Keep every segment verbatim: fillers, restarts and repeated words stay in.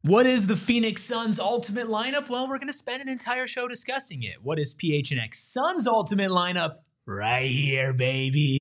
What is the Phoenix Suns' ultimate lineup? Well, we're going to spend an entire show discussing it. What is P H N X Suns' ultimate lineup? Right here, baby.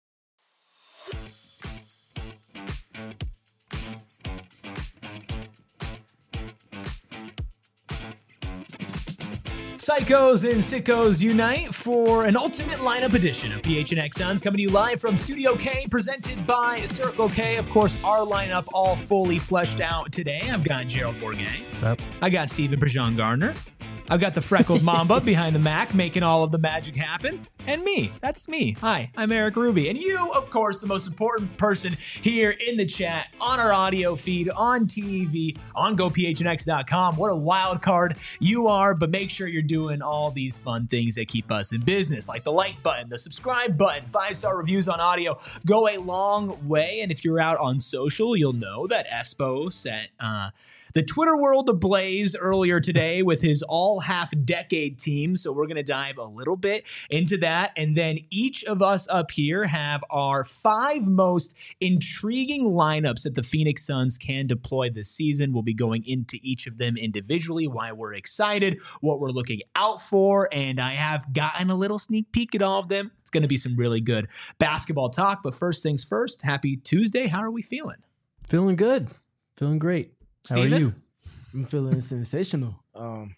Psychos and sickos unite for an ultimate lineup edition of P H N X Suns, coming to you live from Studio K, presented by Circle K. Of course, our lineup all fully fleshed out today. I've got Gerald Bourguet. What's up? I got Stephen Prejean Gardner. I've got the freckled Mamba behind the Mac, making all of the magic happen. And me. That's me. Hi, I'm Eric Ruby. And you, of course, the most important person here in the chat, on our audio feed, on T V, on go P H N X dot com. What a wild card you are, but make sure you're doing all these fun things that keep us in business, like the like button, the subscribe button, five-star reviews on audio go a long way. And if you're out on social, you'll know that Espo set uh, the Twitter world ablaze earlier today with his all half-decade team. So we're going to dive a little bit into that. And then each of us up here have our five most intriguing lineups that the Phoenix Suns can deploy this season. We'll be going into each of them individually, why we're excited, what we're looking out for, and I have gotten a little sneak peek at all of them. It's going to be some really good basketball talk, but first things first, happy Tuesday. How are we feeling? Feeling good. Feeling great. Steven? How are you? I'm feeling sensational. Um,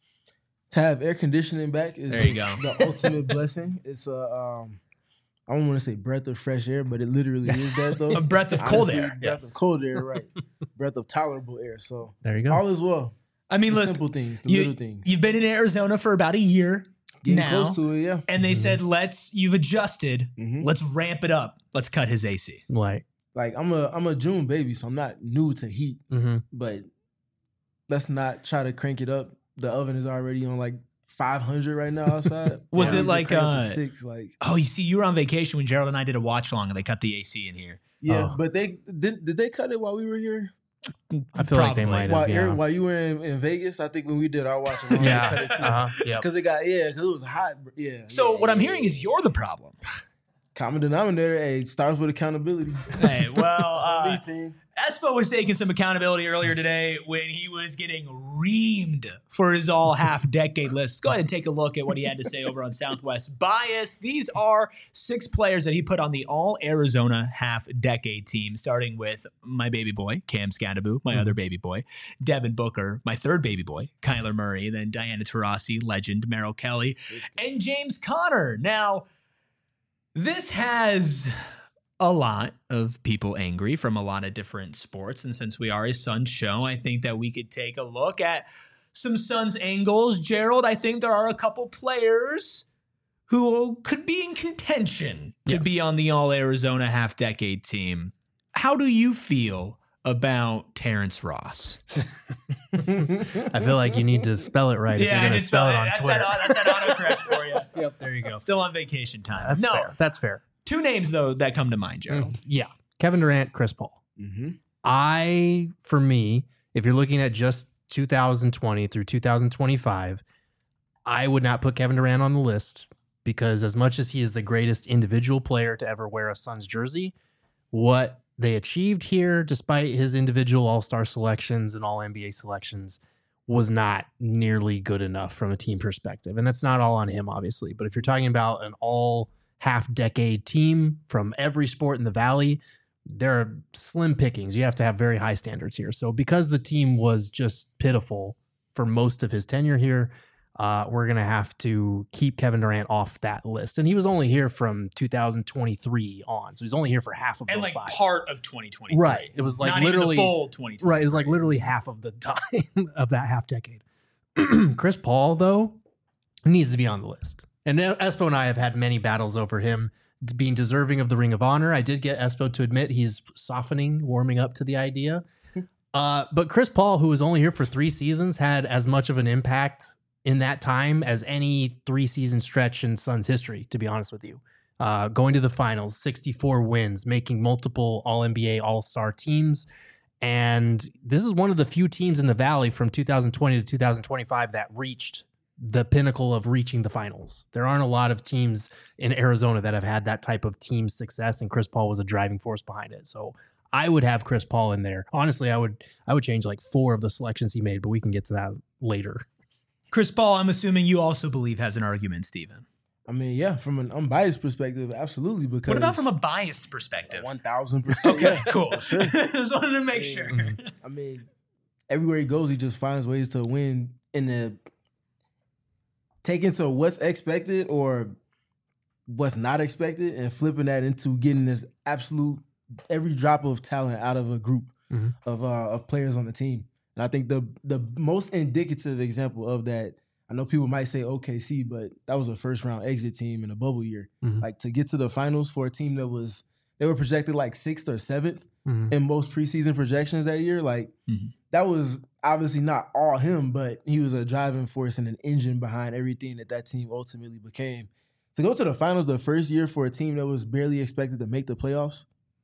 to have air conditioning back is There you go. the ultimate blessing. It's a, um, I don't want to say breath of fresh air, but it literally is that though. A breath of cold Honestly, air. Breath Yes. of cold air, right. Breath of tolerable air. So There you go. all is well. I mean, The look, simple things, the you, little things. you've been in Arizona for about a year Getting now, close to it, yeah. and they Mhm. said, let's, you've adjusted, Mhm. let's ramp it up. Let's cut his A C. Like, Like I'm a I'm a June baby, so I'm not new to heat, mm-hmm. but let's not try to crank it up. The oven is already on like five hundred right now outside. Was Yeah, it we like, could crank it to uh, six? Like Oh, you see, you were on vacation when Gerald and I did a watch along and they cut the A C in here. yeah, Oh. but they did. Did they cut it while we were here? I feel like they Probably. might have. While, Yeah. Eric, while you were in, in Vegas, I think when we did our watch along, yeah. they cut it too. Uh-huh. Yep. Because it got yeah, because it was hot. Yeah. So yeah, what I'm yeah, hearing yeah. is you're the problem. common denominator. Hey, starts with accountability. Hey, well, On uh, me, team. Espo was taking some accountability earlier today when he was getting reamed for his all half decade list. Let's go ahead and take a look at what he had to say over on Southwest Bias. These are six players that he put on the all Arizona half decade team, starting with my baby boy, Cam Scadaboo, my Mhm. other baby boy, Devin Booker, my third baby boy, Kyler Murray, then Diana Taurasi, legend, Merrill Kelly, and James Conner. Now, this has a lot of people angry from a lot of different sports. And since we are a Suns show, I think that we could take a look at some Suns angles. Gerald, I think there are a couple players who could be in contention to Yes. be on the all Arizona half decade team. How do you feel about Terrence Ross? I feel like you need to spell it right if you're I going to just spell felt it on that's Twitter. That, that's that autocorrect for you. Yep, there you go. Still on vacation time. That's no, fair. That's fair. two names, though, that come to mind, Gerald. Yeah. Kevin Durant, Chris Paul. Mm-hmm. I, for me, if you're looking at just two thousand twenty through two thousand twenty-five, I would not put Kevin Durant on the list because as much as he is the greatest individual player to ever wear a Suns jersey, what they achieved here, despite his individual all-star selections and all N B A selections, was not nearly good enough from a team perspective. And that's not all on him, obviously. But if you're talking about an all half-decade team from every sport in the Valley, there are slim pickings. You have to have very high standards here. So because the team was just pitiful for most of his tenure here, uh, we're going to have to keep Kevin Durant off that list. And he was only here from two thousand twenty-three on. So he's only here for half of And those like five. part of twenty twenty. Right. It was like Not literally even the full twenty twenty. Right. It was like literally half of the time of that half decade. Chris Paul, though, needs to be on the list. And Espo and I have had many battles over him being deserving of the Ring of Honor. I did get Espo to admit he's softening, warming up to the idea. Uh, but Chris Paul, who was only here for three seasons, had as much of an impact in that time as any three-season stretch in Suns history, to be honest with you. Uh, going to the finals, sixty-four wins, making multiple All N B A All-Star teams. And this is one of the few teams in the Valley from two thousand twenty to two thousand twenty-five that reached the pinnacle of reaching the finals. There aren't a lot of teams in Arizona that have had that type of team success, and Chris Paul was a driving force behind it. So I would have Chris Paul in there. Honestly, I would I would change like four of the selections he made, but we can get to that later. Chris Paul, I'm assuming you also believe has an argument, Steven. I mean, yeah, from an unbiased perspective, absolutely. Because what about from a biased perspective? One thousand percent. Okay, cool. Sure. Just wanted to make sure. I mean, everywhere he goes, he just finds ways to win in the take into what's expected or what's not expected and flipping that into getting this absolute every drop of talent out of a group mm-hmm. of uh, of players on the team. And I think the the most indicative example of that, I know people might say O K C, but that was a first round exit team in a bubble year. Mm-hmm. Like to get to the finals for a team that was they were projected like sixth or seventh mm-hmm. in most preseason projections that year. Like mm-hmm. that was obviously not all him, but he was a driving force and an engine behind everything that that team ultimately became. To go to the finals the first year for a team that was barely expected to make the playoffs,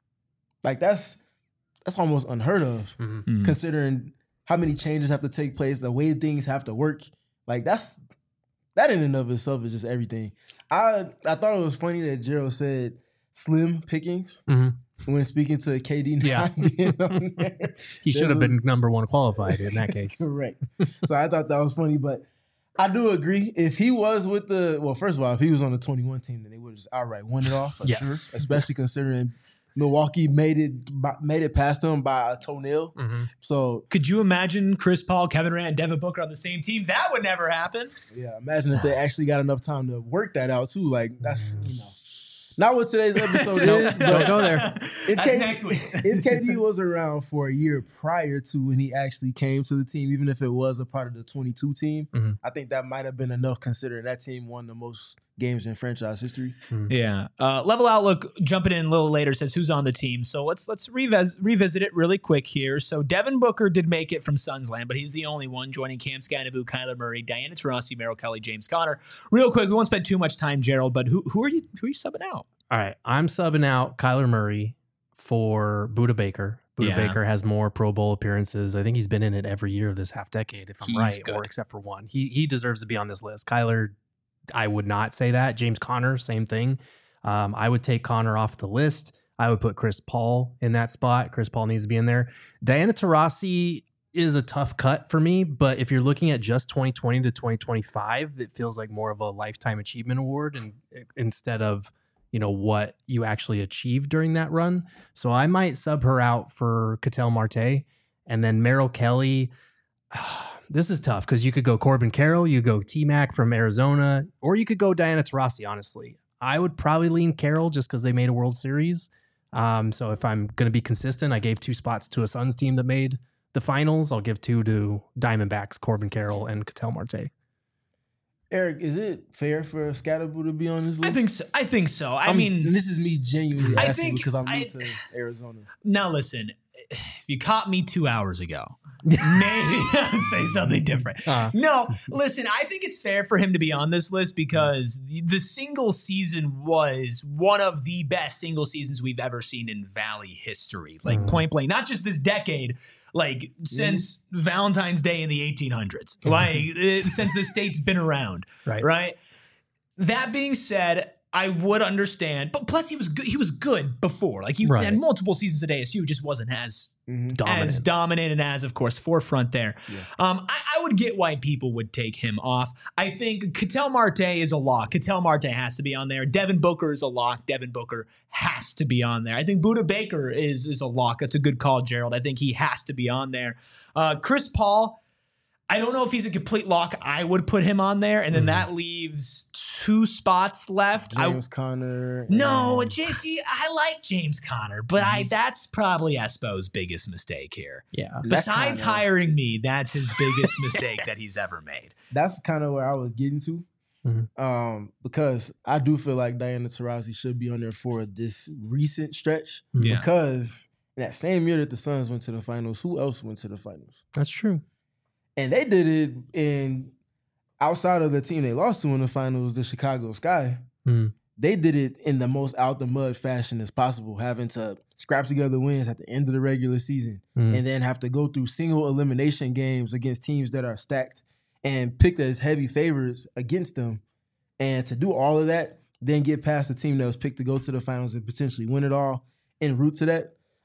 like that's that's almost unheard of, mm-hmm. considering how many changes have to take place, the way things have to work. Like that's that in and of itself is just everything. I I thought it was funny that Gerald said slim pickings mm-hmm. when speaking to K D not yeah. being on there. He should have been number one qualified in that case. Correct. So I thought that was funny, but I do agree. If he was with the well, first of all, if he was on the twenty-one team, then they would have just outright won it off for yes. sure. Especially considering Milwaukee made it made it past them by a toenail. Mm-hmm. So could you imagine Chris Paul, Kevin Durant, and Devin Booker on the same team? That would never happen. Yeah, imagine if they actually got enough time to work that out too. Like that's you know. Not what today's episode is. But don't go there. If That's K D, next week. If K D was around for a year prior to when he actually came to the team, even if it was a part of the twenty-two team, mm-hmm. I think that might have been enough considering that team won the most games in franchise history. Mm-hmm. Yeah. Uh, Level Outlook jumping in a little later says who's on the team. So let's let's revis- revisit it really quick here. So Devin Booker did make it from Suns land, but he's the only one joining Cam Scanabu, Kyler Murray, Diana Taurasi, Merrill Kelly, James Conner. Real quick, we won't spend too much time, Gerald, but who who are you who are you subbing out? All right, I'm subbing out Kyler Murray for Budda Baker. Budda yeah. Baker has more Pro Bowl appearances. I think he's been in it every year of this half decade, if I'm he's right, good. or except for one. He he deserves to be on this list. Kyler, I would not say that. James Conner, same thing. Um, I would take Conner off the list. I would put Chris Paul in that spot. Chris Paul needs to be in there. Diana Taurasi is a tough cut for me, but if you're looking at just twenty twenty to twenty twenty-five, it feels like more of a lifetime achievement award, and instead of you know, what you actually achieved during that run. So I might sub her out for Ketel Marte. And then Merrill Kelly, uh, this is tough because you could go Corbin Carroll, you go T-Mac from Arizona, or you could go Diana Taurasi, honestly. I would probably lean Carroll just because they made a World Series. Um, so if I'm going to be consistent, I gave two spots to a Suns team that made the finals. I'll give two to Diamondbacks, Corbin Carroll, and Ketel Marte. Eric, is it fair for Scanabu to be on this list? I think so. I think so. I I'm, mean, and this is me genuinely I asking think, because I'm new I, to Arizona. Now listen, if you caught me two hours ago, maybe I would say something different. Uh, no, listen, I think it's fair for him to be on this list because the, the single season was one of the best single seasons we've ever seen in Valley history. Like mm. point blank, not just this decade, like since mm. Valentine's Day in the eighteen hundreds, like it, since the state's been around, right? Right. That being said, I would understand, but plus he was good. He was good before, like he right. had multiple seasons at A S U, just wasn't as mm-hmm. dominant. as dominant and as, of course, forefront there. Yeah. Um, I, I would get why people would take him off. I think Ketel Marte is a lock. Ketel Marte has to be on there. Devin Booker is a lock. Devin Booker has to be on there. I think Budda Baker is is a lock. That's a good call, Gerald. I think he has to be on there. Uh, Chris Paul. I don't know if he's a complete lock. I would put him on there, and then mm. that leaves two spots left. James I, Conner. No, J C, I like James Conner, but mm-hmm. I that's probably Espo's biggest mistake here. Yeah. Besides kinda, hiring me, that's his biggest mistake that he's ever made. That's kind of where I was getting to. Mm-hmm. Um, because I do feel like Diana Taurasi should be on there for this recent stretch. Yeah. Because in that same year that the Suns went to the finals, who else went to the finals? That's true. And they did it in outside of the team they lost to in the finals, the Chicago Sky. Mm. They did it in the most out the mud fashion as possible, having to scrap together wins at the end of the regular season mm. and then have to go through single elimination games against teams that are stacked and picked as heavy favorites against them. And to do all of that, then get past the team that was picked to go to the finals and potentially win it all en route to that.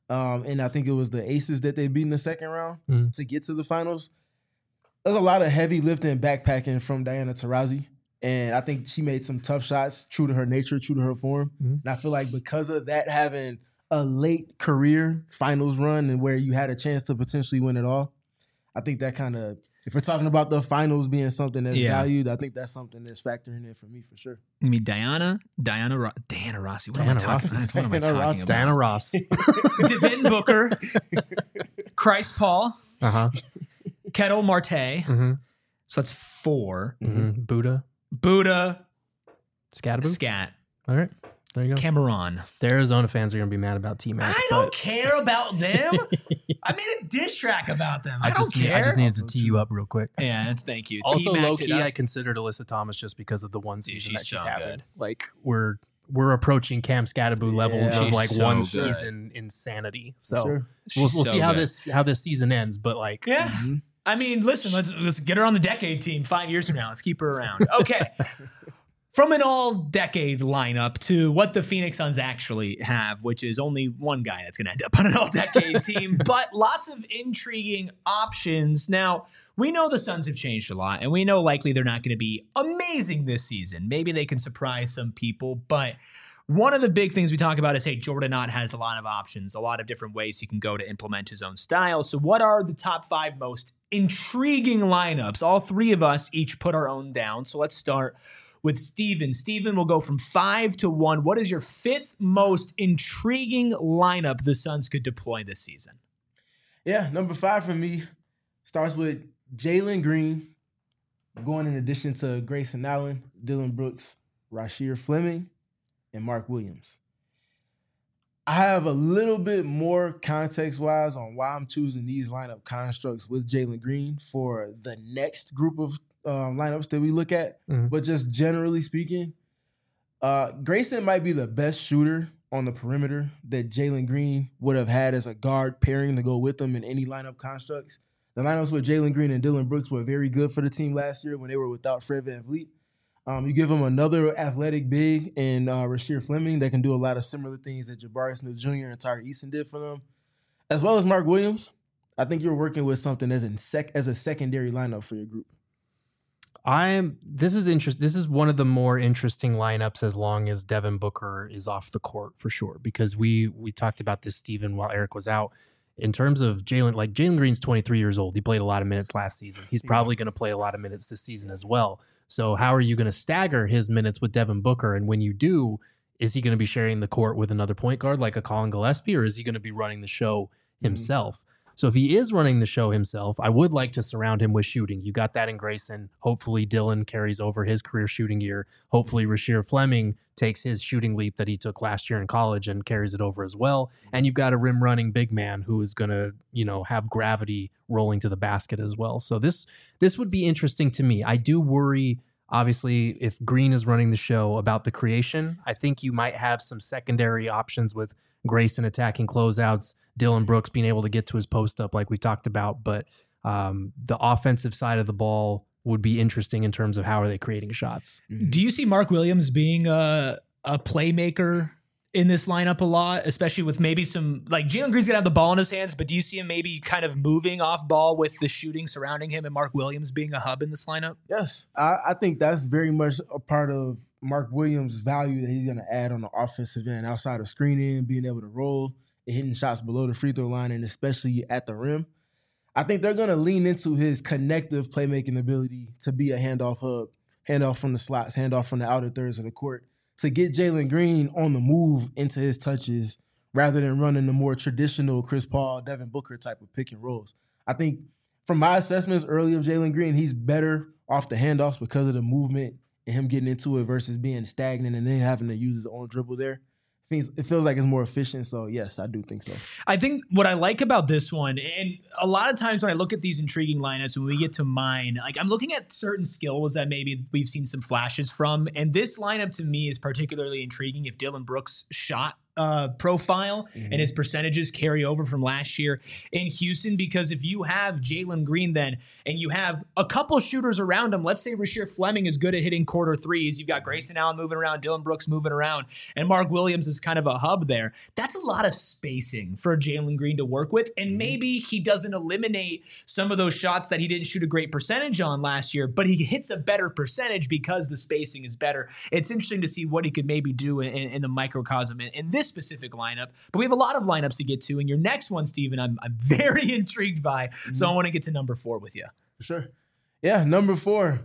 Um, and I think it was the Aces that they beat in the second round Mm. to get to the finals. There's a lot of heavy lifting and backpacking from Diana Taurasi. And I think she made some tough shots, true to her nature, true to her form. Mm. And I feel like because of that, having a late career finals run and where you had a chance to potentially win it all, I think that kind of, if we're talking about the finals being something that's Yeah. valued, I think that's something that's factoring in for me for sure. I mean, Diana, Diana, Ro- Diana Rossi. What Diana am I talking Rossi. about? What am I Diana talking Rossi. about? Diana Ross. Devin Booker, Christ Paul, Uh huh. Kettle Marte. Mm-hmm. So that's four. Mm-hmm. Buddha. Buddha, Scatterboo. Scat, All right. There you go. Cameron. The Arizona fans are going to be mad about T-Mac. I don't care about them. I made a diss track about them. I, I don't just, need- care. I just needed to tee you up real quick. yeah, that's, thank you. Also, T-Mac low did key, up. I considered Alyssa Thomas just because of the one Dude, season she's that she's so having. good. Like we're we're approaching Cam Scatterboo levels Yeah. of like She's one so good. season insanity. So Sure. we'll, She's we'll so see how good. this how this season ends. But like, Yeah. Mhm. I mean, listen, let's let's get her on the decade team five years from now. Let's keep her around. Okay. From an all-decade lineup to what the Phoenix Suns actually have, which is only one guy that's going to end up on an all-decade team, but lots of intriguing options. Now, we know the Suns have changed a lot, and we know likely they're not going to be amazing this season. Maybe they can surprise some people, but one of the big things we talk about is, hey, Jordan Ott has a lot of options, a lot of different ways he can go to implement his own style. So what are the top five most intriguing lineups? All three of us each put our own down. So let's start with Steven. Steven will go from five to one. What is your fifth most intriguing lineup the Suns could deploy this season? Yeah, number five for me starts with Jalen Green, going in addition to Grayson Allen, Dylan Brooks, Rasheer Fleming, and Mark Williams. I have a little bit more context-wise on why I'm choosing these lineup constructs with Jalen Green for the next group of um, lineups that we look at. Mhm. But just generally speaking, uh, Grayson might be the best shooter on the perimeter that Jalen Green would have had as a guard pairing to go with him in any lineup constructs. The lineups with Jalen Green and Dylan Brooks were very good for the team last year when they were without Fred VanVleet. Um, you give him another athletic big in uh, Rasheer Fleming that can do a lot of similar things that Jabari Smith Junior and Tyre Easton did for them, as well as Mark Williams. I think you're working with something as in sec as a secondary lineup for your group. I'm. This is interest. This is one of the more interesting lineups as long as Devin Booker is off the court for sure. Because we we talked about this, Steven, while Eric was out. In terms of Jalen, like Jalen Green's twenty-three years old. He played a lot of minutes last season. He's probably going to play a lot of minutes this season as well. So how are you going to stagger his minutes with Devin Booker? And when you do, is he going to be sharing the court with another point guard like a Colin Gillespie, or is he going to be running the show himself? So if he is running the show himself, I would like to surround him with shooting. You got that in Grayson. Hopefully Dylan carries over his career shooting year. Hopefully Rasheer Fleming takes his shooting leap that he took last year in college and carries it over as well. And you've got a rim running big man who is going to, you know, have gravity rolling to the basket as well. So this this would be interesting to me. I do worry, obviously, if Green is running the show, about the creation. I think you might have some secondary options with Grayson attacking closeouts, Dylan Brooks being able to get to his post up like we talked about. But um, the offensive side of the ball would be interesting in terms of how are they creating shots. Do you see Mark Williams being a, a playmaker in this lineup a lot, especially with maybe some, like Jalen Green's gonna have the ball in his hands, but do you see him maybe kind of moving off ball with the shooting surrounding him and Mark Williams being a hub in this lineup? Yes, I, I think that's very much a part of Mark Williams' value that he's going to add on the offensive end, outside of screening, being able to roll and hitting shots below the free throw line, and especially at the rim. I think they're going to lean into his connective playmaking ability to be a handoff hub, handoff from the slots, handoff from the outer thirds of the court, to get Jalen Green on the move into his touches rather than running the more traditional Chris Paul, Devin Booker type of pick and rolls. I think from my assessments early of Jalen Green, he's better off the handoffs because of the movement and him getting into it versus being stagnant and then having to use his own dribble there. It feels like it's more efficient. So, yes, I do think so. I think what I like about this one, and a lot of times when I look at these intriguing lineups, when we get to mine, like I'm looking at certain skills that maybe we've seen some flashes from. And this lineup to me is particularly intriguing if Dylan Brooks shot uh, profile mm-hmm. and his percentages carry over from last year in Houston, because if you have Jalen Green then and you have a couple shooters around him, let's say Rasheer Fleming is good at hitting quarter threes, you've got Grayson Allen moving around, Dylan Brooks moving around, and Mark Williams is kind of a hub there. That's a lot of spacing for Jalen Green to work with, and maybe he doesn't eliminate some of those shots that he didn't shoot a great percentage on last year, but he hits a better percentage because the spacing is better. It's interesting to see what he could maybe do in, in the microcosm in, in this specific lineup, but we have a lot of lineups to get to, and your next one, Steven, I'm, I'm very intrigued by, mm-hmm. so I want to get to number four with you. For sure. Yeah, number four.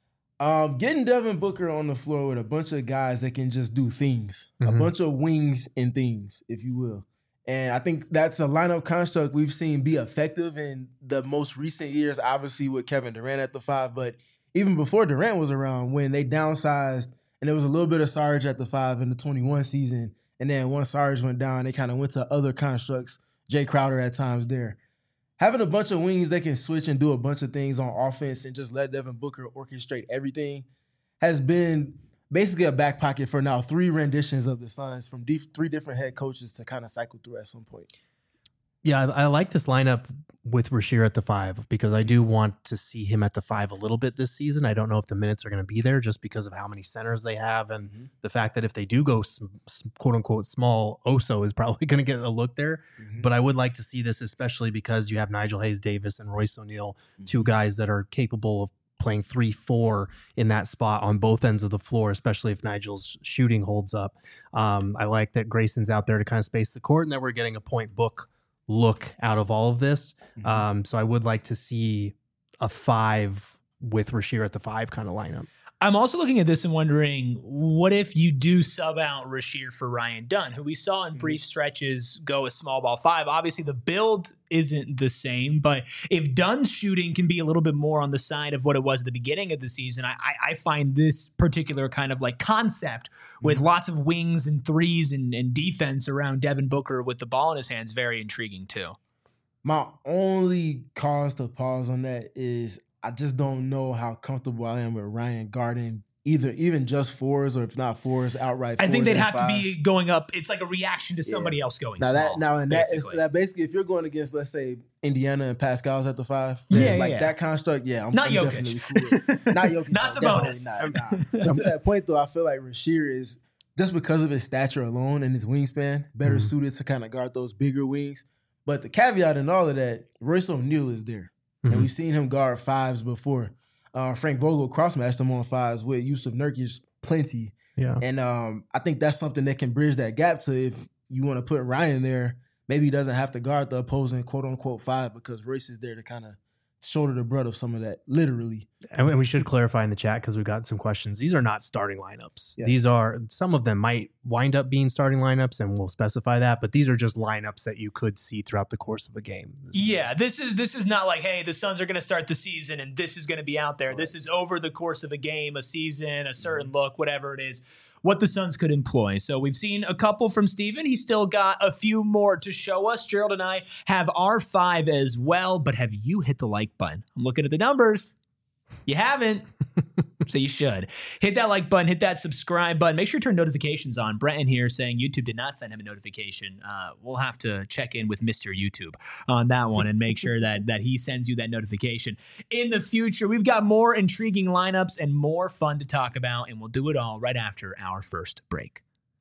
Um, getting Devin Booker on the floor with a bunch of guys that can just do things, mm-hmm. a bunch of wings and things, if you will. And I think that's a lineup construct we've seen be effective in the most recent years, obviously with Kevin Durant at the five, but even before Durant was around, when they downsized and there was a little bit of Sarge at the five in the twenty-one season, and then once Sarge went down, they kind of went to other constructs, Jay Crowder at times there. Having a bunch of wings that can switch and do a bunch of things on offense and just let Devin Booker orchestrate everything has been basically a back pocket for now three renditions of the Suns from d- three different head coaches to kind of cycle through at some point. Yeah, I, I like this lineup with Rasheer at the five because I do want to see him at the five a little bit this season. I don't know if the minutes are going to be there just because of how many centers they have and mm-hmm. the fact that if they do go sm- quote unquote small, Oso is probably going to get a look there. Mm-hmm. But I would like to see this, especially because you have Nigel Hayes-Davis and Royce O'Neal, mm-hmm. two guys that are capable of playing three four in that spot on both ends of the floor, especially if Nigel's shooting holds up. Um, I like that Grayson's out there to kind of space the court and that we're getting a point book look out of all of this. Mm-hmm. Um, so I would like to see a five with Rasheer at the five kind of lineup. I'm also looking at this and wondering, what if you do sub out Rasheer for Ryan Dunn, who we saw in brief stretches go a small ball five? Obviously, the build isn't the same, but if Dunn's shooting can be a little bit more on the side of what it was at the beginning of the season, I, I, I find this particular kind of like concept with mm-hmm. lots of wings and threes and, and defense around Devin Booker with the ball in his hands very intriguing too. My only cause to pause on that is I just don't know how comfortable I am with Ryan guarding either, even just fours or if not fours, outright fours. I think they'd have fives. to be going up. It's like a reaction to somebody yeah. else going now small. That, now, and that is that basically, if you're going against, let's say, Indiana and Pascal's at the five, yeah, like yeah. that construct, yeah, I'm, not I'm Jokic. definitely cool with. Not Jokic. Not Sabonis. Not, nah. But to that point, though, I feel like Rasheer is, just because of his stature alone and his wingspan, better mm-hmm. suited to kind of guard those bigger wings. But the caveat in all of that, Royce O'Neal is there. Mm-hmm. And we've seen him guard fives before. Uh, Frank Vogel cross-matched him on fives with Yusuf Nurkic plenty. Yeah. And um, I think that's something that can bridge that gap to if you want to put Ryan there, maybe he doesn't have to guard the opposing quote-unquote five because Royce is there to kind of shoulder the brunt of some of that, literally. And we should clarify in the chat because we've got some questions. These are not starting lineups. Yeah. These are, some of them might wind up being starting lineups, and we'll specify that, but these are just lineups that you could see throughout the course of a game. This yeah, is, this is this is not like, hey, the Suns are going to start the season and this is going to be out there. Right. This is over the course of a game, a season, a certain mm-hmm. look, whatever it is, what the Suns could employ. So we've seen a couple from Steven. He's still got a few more to show us. Gerald and I have our five as well, but have you hit the like button? I'm looking at the numbers. You haven't, so you should. Hit that like button, hit that subscribe button. Make sure you turn notifications on. Brenton here saying YouTube did not send him a notification. Uh, we'll have to check in with Mister YouTube on that one and make sure that, that he sends you that notification. In the future, we've got more intriguing lineups and more fun to talk about, and we'll do it all right after our first break.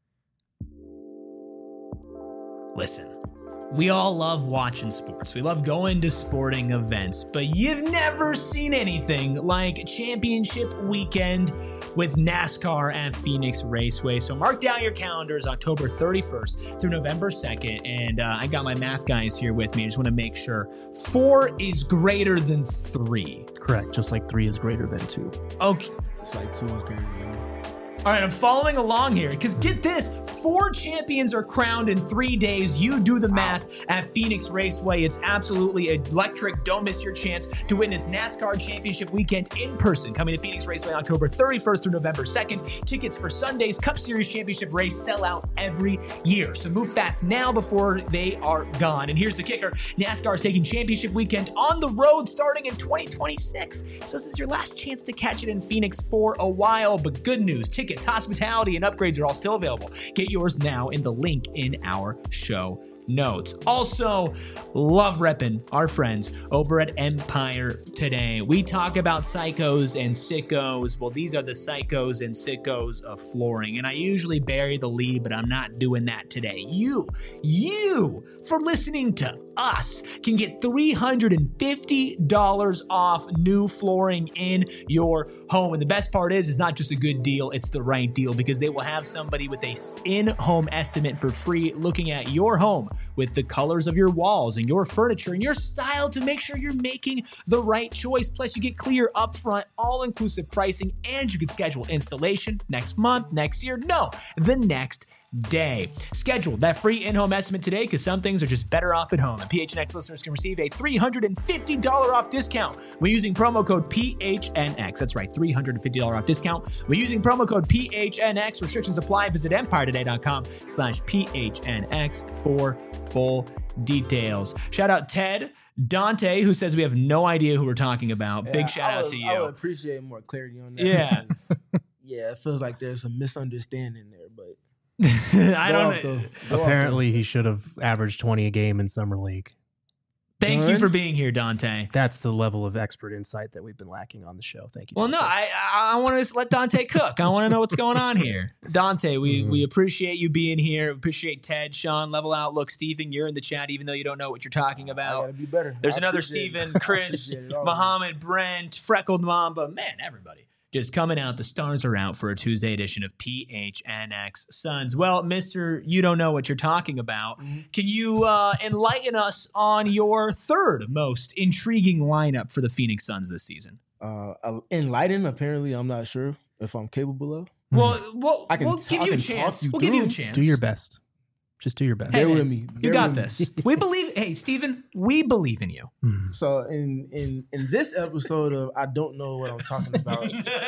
Listen. We all love watching sports. We love going to sporting events, but you've never seen anything like Championship Weekend with NASCAR at Phoenix Raceway. So mark down your calendars, October thirty-first through November second. And uh, I got my math guys here with me. I just want to make sure four is greater than three. Correct. Just like three is greater than two. Okay. Just like two is greater than one. All right, I'm following along here because get this, four champions are crowned in three days. You do the math at Phoenix Raceway. It's absolutely electric. Don't miss your chance to witness NASCAR Championship Weekend in person. Coming to Phoenix Raceway October thirty-first through November second. Tickets for Sunday's Cup Series Championship race sell out every year. So move fast now before they are gone. And here's the kicker. NASCAR is taking Championship Weekend on the road starting in twenty twenty-six. So this is your last chance to catch it in Phoenix for a while. But good news, tickets tickets, hospitality, and upgrades are all still available. Get yours now in the link in our show notes. Also, love repping our friends over at Empire Today. We talk about psychos and sickos. Well, these are the psychos and sickos of flooring. And I usually bury the lead, but I'm not doing that today. You, you, for listening to us, can get three hundred fifty dollars off new flooring in your home. And the best part is, it's not just a good deal, it's the right deal, because they will have somebody with a in-home estimate for free looking at your home with the colors of your walls and your furniture and your style to make sure you're making the right choice. Plus, you get clear upfront, all-inclusive pricing, and you can schedule installation next month, next year, no, the next day. Schedule that free in-home estimate today, because some things are just better off at home. And P H N X listeners can receive a three hundred fifty dollars off discount when using promo code P H N X. That's right, three hundred fifty dollars off discount when using promo code P H N X. Restrictions apply. Visit empiretoday.com slash PHNX for full details. Shout out Ted Dante, who says we have no idea who we're talking about. Yeah, Big shout I out would, to you. I would appreciate more clarity on that. Yeah. because, yeah, it feels like there's some misunderstanding there, but I go don't off, know. though. Go off, Apparently, he should have averaged twenty a game in summer league. Thank you Done? for being here, Dante. That's the level of expert insight that we've been lacking on the show. Thank you. Well, no, Dante. I I, I want to let Dante cook. I want to know what's going on here. Dante, we Mhm. we appreciate you being here. Appreciate Ted, Sean, Level Outlook, Stephen. You're in the chat, even though you don't know what you're talking I about. gotta be better. There's I another appreciate it. Stephen, I Chris, appreciate it always. Muhammad, Brent, Freckled Mamba. Man, everybody just coming out. The stars are out for a Tuesday edition of P H N X Suns. Well, Mister You don't know what you're talking about. Mhm. Can you uh, enlighten us on your third most intriguing lineup for the Phoenix Suns this season? Uh, uh, enlightened, apparently, I'm not sure if I'm capable of. Well, we'll, I can we'll t- give I you a can talk chance. you We'll give you a through. chance. Do your best. Just do your best. Hey, Bear with man, me. You Bear got with me. this. We believe. Hey, Stephen, we believe in you. Mhm. So in in in this episode of I Don't Know What I'm Talking About,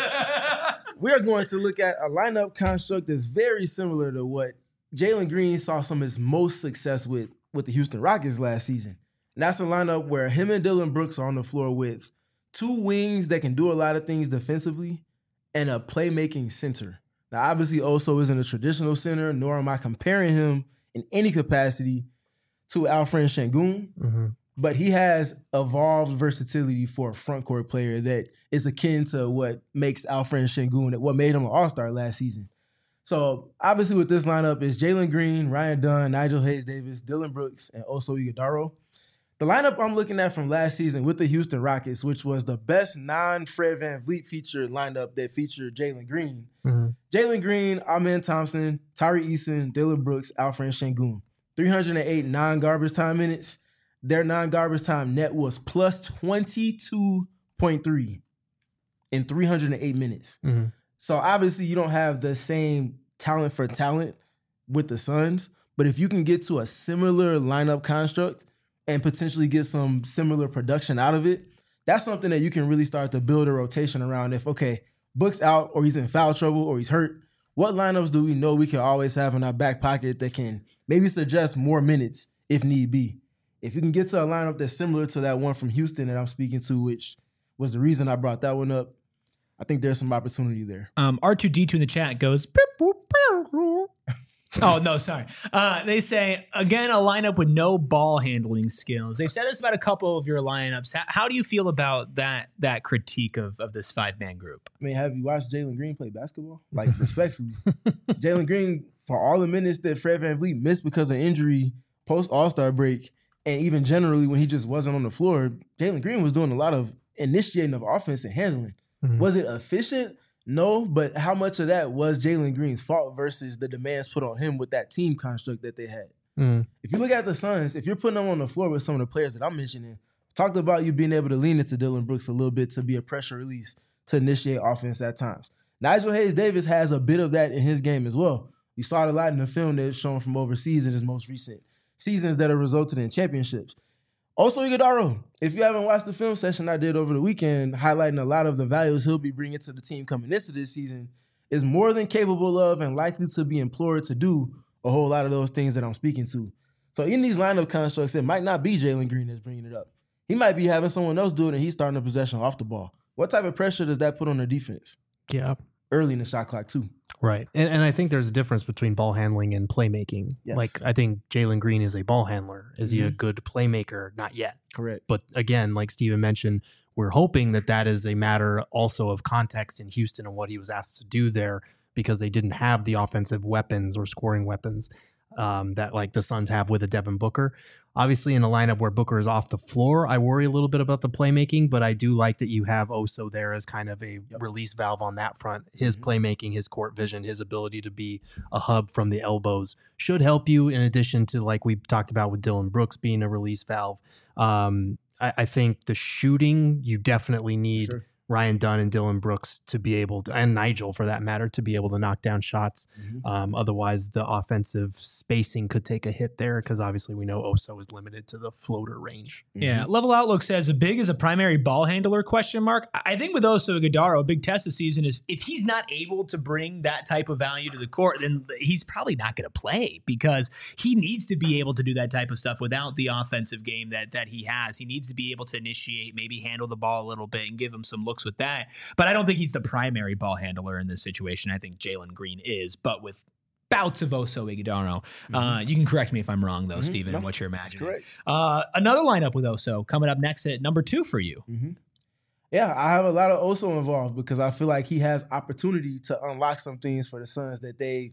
we are going to look at a lineup construct that's very similar to what Jalen Green saw some of his most success with with the Houston Rockets last season. And that's a lineup where him and Dylan Brooks are on the floor with two wings that can do a lot of things defensively and a playmaking center. Now, obviously, Oso isn't a traditional center, nor am I comparing him in any capacity to Alfred Şengün. Mhm. But he has evolved versatility for a front court player that is akin to what makes Alfred Şengün, what made him an all-star last season. So obviously with this lineup is Jalen Green, Ryan Dunn, Nigel Hayes-Davis, Dylan Brooks, and Oso Ighodaro. The lineup I'm looking at from last season with the Houston Rockets, which was the best non-Fred VanVleet featured lineup that featured Jalen Green. Mhm. Jalen Green, Amen Thompson, Tari Eason, Dylan Brooks, Alfred Şengün. three hundred eight non-garbage time minutes. Their non-garbage time net was plus twenty-two point three in three hundred eight minutes. Mhm. So obviously you don't have the same talent for talent with the Suns, but if you can get to a similar lineup construct and potentially get some similar production out of it, that's something that you can really start to build a rotation around. If, okay, Book's out or he's in foul trouble or he's hurt, what lineups do we know we can always have in our back pocket that can maybe suggest more minutes if need be? If you can get to a lineup that's similar to that one from Houston that I'm speaking to, which was the reason I brought that one up, I think there's some opportunity there. Um, R two D two in the chat goes. "Beep, boop, boop, boop." Oh no, sorry. Uh, they say again a lineup with no ball handling skills. They've said this about a couple of your lineups. How, how do you feel about that that critique of of this five man group? I mean, have you watched Jalen Green play basketball? Like, respectfully. Jalen Green, for all the minutes that Fred VanVleet missed because of injury post All-Star break, and even generally when he just wasn't on the floor, Jalen Green was doing a lot of initiating of offense and handling. Mhm. Was it efficient? No, but how much of that was Jalen Green's fault versus the demands put on him with that team construct that they had? Mhm. If you look at the Suns, if you're putting them on the floor with some of the players that I'm mentioning, talked about you being able to lean into Dylan Brooks a little bit to be a pressure release, to initiate offense at times. Nigel Hayes-Davis has a bit of that in his game as well. We saw it a lot in the film that's shown from overseas in his most recent seasons that have resulted in championships. Also, Ighodaro, if you haven't watched the film session I did over the weekend, highlighting a lot of the values he'll be bringing to the team coming into this season, is more than capable of and likely to be employed to do a whole lot of those things that I'm speaking to. So in these lineup constructs, it might not be Jalen Green that's bringing it up. He might be having someone else do it and he's starting a possession off the ball. What type of pressure does that put on the defense? Yeah. early in the shot clock too. Right. And and I think there's a difference between ball handling and playmaking. Yes. Like, I think Jalen Green is a ball handler. Is he a Mhm. good playmaker? Not yet. Correct. But again, like Steven mentioned, we're hoping that that is a matter also of context in Houston and what he was asked to do there, because they didn't have the offensive weapons or scoring weapons um, that like the Suns have with a Devin Booker. Obviously, in a lineup where Booker is off the floor, I worry a little bit about the playmaking, but I do like that you have Oso there as kind of a Yep. release valve on that front. His Mhm. playmaking, his court vision, his ability to be a hub from the elbows should help you, in addition to, like we talked about with Dylan Brooks being a release valve. Um, I, I think the shooting, you definitely need Sure. Ryan Dunn and Dylan Brooks to be able to, and Nigel for that matter, to be able to knock down shots. Mhm. Um, otherwise, the offensive spacing could take a hit there, because obviously we know Oso is limited to the floater range. Yeah, Mhm. Level Outlook says a big as a primary ball handler question mark. I think with Oso Ighodaro, a big test this season is if he's not able to bring that type of value to the court, then he's probably not going to play, because he needs to be able to do that type of stuff without the offensive game that that he has. He needs to be able to initiate, maybe handle the ball a little bit and give him some looks with that. But I don't think he's the primary ball handler in this situation. I think Jalen Green is, but with bouts of Oso Ighodaro. Uh, you can correct me if I'm wrong, though, Mhm. Steven, No, what you're That's imagining. correct. Uh, another lineup with Oso coming up next at number two for you. hmm Yeah, I have a lot of Oso involved because I feel like he has opportunity to unlock some things for the Suns that they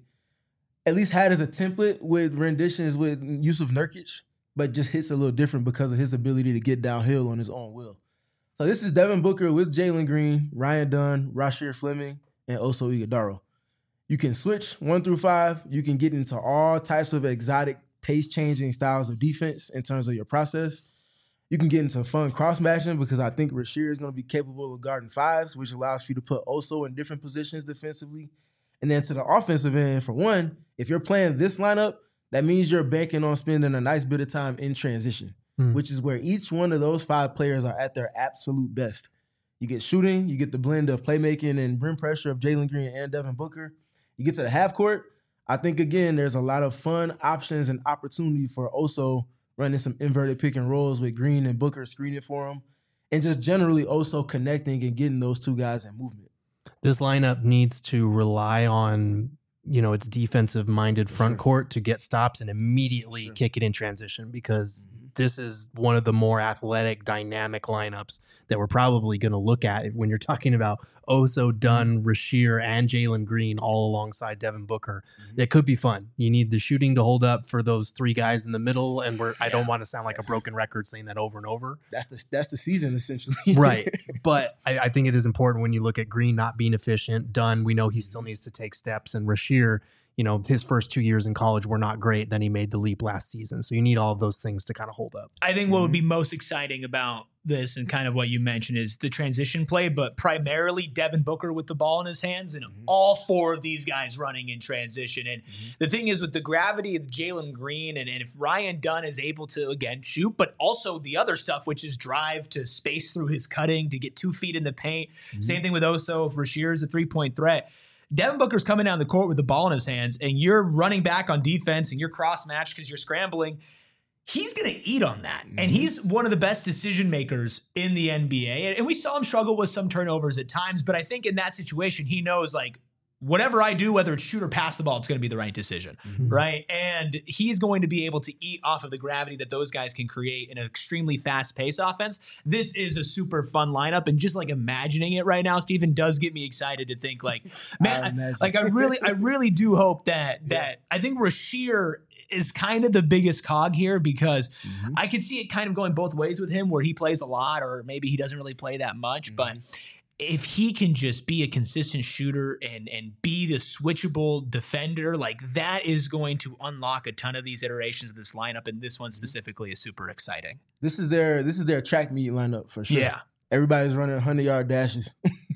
at least had as a template with renditions with Yusuf Nurkic, but just hits a little different because of his ability to get downhill on his own will. So this is Devin Booker with Jalen Green, Ryan Dunn, Rasheer Fleming, and Oso Ighodaro. You can switch one through five. You can get into all types of exotic pace-changing styles of defense in terms of your process. You can get into fun cross-matching because I think Rasheer is going to be capable of guarding fives, which allows you to put Oso in different positions defensively. And then to the offensive end, for one, if you're playing this lineup, that means you're banking on spending a nice bit of time in transition, Hmm. which is where each one of those five players are at their absolute best. You get shooting, you get the blend of playmaking and rim pressure of Jalen Green and Devin Booker. You get to the half court. I think, again, there's a lot of fun options and opportunity for Oso running some inverted pick and rolls with Green and Booker screening for him, and just generally Oso connecting and getting those two guys in movement. This lineup needs to rely on, you know, its defensive minded front Sure. court to get stops and immediately Sure. kick it in transition, because Mhm. this is one of the more athletic, dynamic lineups that we're probably going to look at when you're talking about Oso, Dunn, Rasheer, and Jalen Green all alongside Devin Booker. Mhm. It could be fun. You need the shooting to hold up for those three guys in the middle, and we're I don't Yeah. want to sound like Yes. a broken record saying that over and over. That's the that's the season essentially. Right. But I, I think it is important when you look at Green not being efficient. Dunn, we know he still needs to take steps. And Rasheer, you know, his first two years in college were not great. Then he made the leap last season. So you need all of those things to kind of hold up. I think what would Mhm. be most exciting about this and kind of what you mentioned is the transition play, but primarily Devin Booker with the ball in his hands and Mhm. all four of these guys running in transition. And Mhm. the thing is with the gravity of Jalen Green and, and if Ryan Dunn is able to, again, shoot, but also the other stuff, which is drive to space through his cutting, to get two feet in the paint. Mhm. Same thing with Oso. If Rasheer is a three-point threat, Devin Booker's coming down the court with the ball in his hands and you're running back on defense and you're cross-matched because you're scrambling. He's going to eat on that. And Mhm. he's one of the best decision makers in the N B A. And, and we saw him struggle with some turnovers at times, but I think in that situation, he knows like, whatever I do, whether it's shoot or pass the ball, it's going to be the right decision, Mhm. right? And he's going to be able to eat off of the gravity that those guys can create in an extremely fast-paced offense. This is a super fun lineup, and just like imagining it right now, Steven, does get me excited to think like, man, I I- imagine. like I really, I really do hope that that I think Rasheer is kind of the biggest cog here because Mhm. I could see it kind of going both ways with him, where he plays a lot, or maybe he doesn't really play that much, Mhm. but if he can just be a consistent shooter and and be the switchable defender, like that is going to unlock a ton of these iterations of this lineup, and this one specifically is super exciting. This is their this is their track meet lineup for sure. Yeah. Everybody's running hundred yard dashes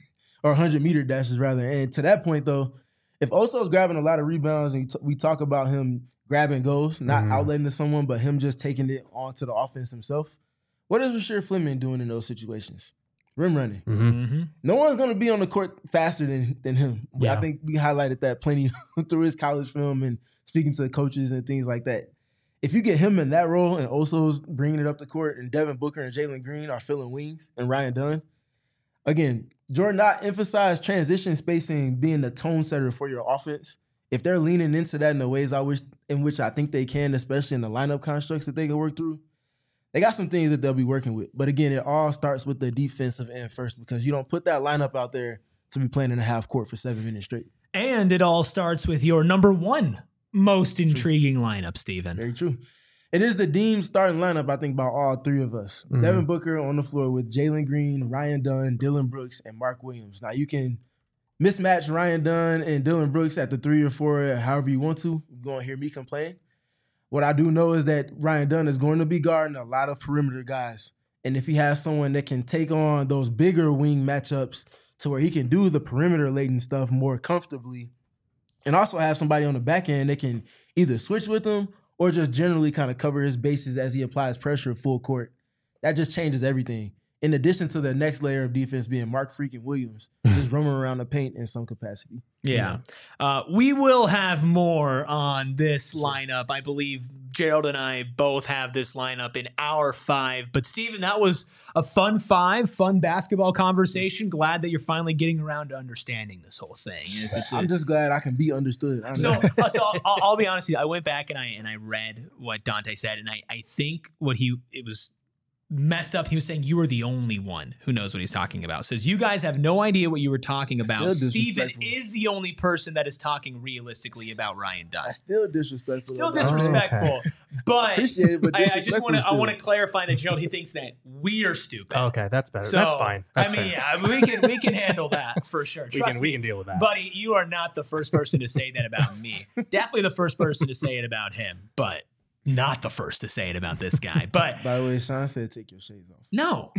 or hundred meter dashes rather. And to that point though, if Oso's grabbing a lot of rebounds and we talk about him grabbing goals, not Mhm. outletting to someone, but him just taking it onto the offense himself, what is Rasheer Fleming doing in those situations? Rim running. Mm-hmm. Mm-hmm. No one's going to be on the court faster than than him. Yeah. I think we highlighted that plenty through his college film and speaking to coaches and things like that. If you get him in that role and Oso's bringing it up the court and Devin Booker and Jalen Green are filling wings and Ryan Dunn, again, Jordan Knott emphasized transition spacing being the tone setter for your offense. If they're leaning into that in the ways I wish, in which I think they can, especially in the lineup constructs that they can work through, they got some things that they'll be working with. But again, it all starts with the defensive end first, because you don't put that lineup out there to be playing in a half court for seven minutes straight. And it all starts with your number one most intriguing true. lineup, Steven. Very true. It is the deemed starting lineup, I think, by all three of us. Mm-hmm. Devin Booker on the floor with Jalen Green, Ryan Dunn, Dillon Brooks, and Mark Williams. Now, you can mismatch Ryan Dunn and Dillon Brooks at the three or four however you want to. You're going to hear me complain. What I do know is that Ryan Dunn is going to be guarding a lot of perimeter guys. And if he has someone that can take on those bigger wing matchups to where he can do the perimeter-laden stuff more comfortably, and also have somebody on the back end that can either switch with him or just generally kind of cover his bases as he applies pressure full court, that just changes everything. In addition to the next layer of defense being Mark freaking Williams, just roaming around the paint in some capacity. Yeah. Uh, we will have more on this lineup. I believe Gerald and I both have this lineup in our five. But, Steven, that was a fun five, fun basketball conversation. Glad that you're finally getting around to understanding this whole thing. It's I'm a, just glad I can be understood. So, uh, so I'll, I'll be honest with you. I went back and I and I read what Dante said, and I, I think what he – it was – messed up. He was saying you were the only one who knows what he's talking about. Says you guys have no idea what you were talking about. Steven is the only person that is talking realistically about Ryan Dunn. That's still disrespectful. Still disrespectful. Oh, okay. But Appreciate it, but I, I just want to I want to clarify that Gerald, he thinks that we are stupid. Okay, that's better. So, that's fine. That's I mean, fair. yeah, we can we can handle that for sure. we Trust can me, we can deal with that, buddy. You are not the first person to say that about me. Definitely the first person to say it about him, but not the first to say it about this guy. But by the way, Sean said take your shades off. No.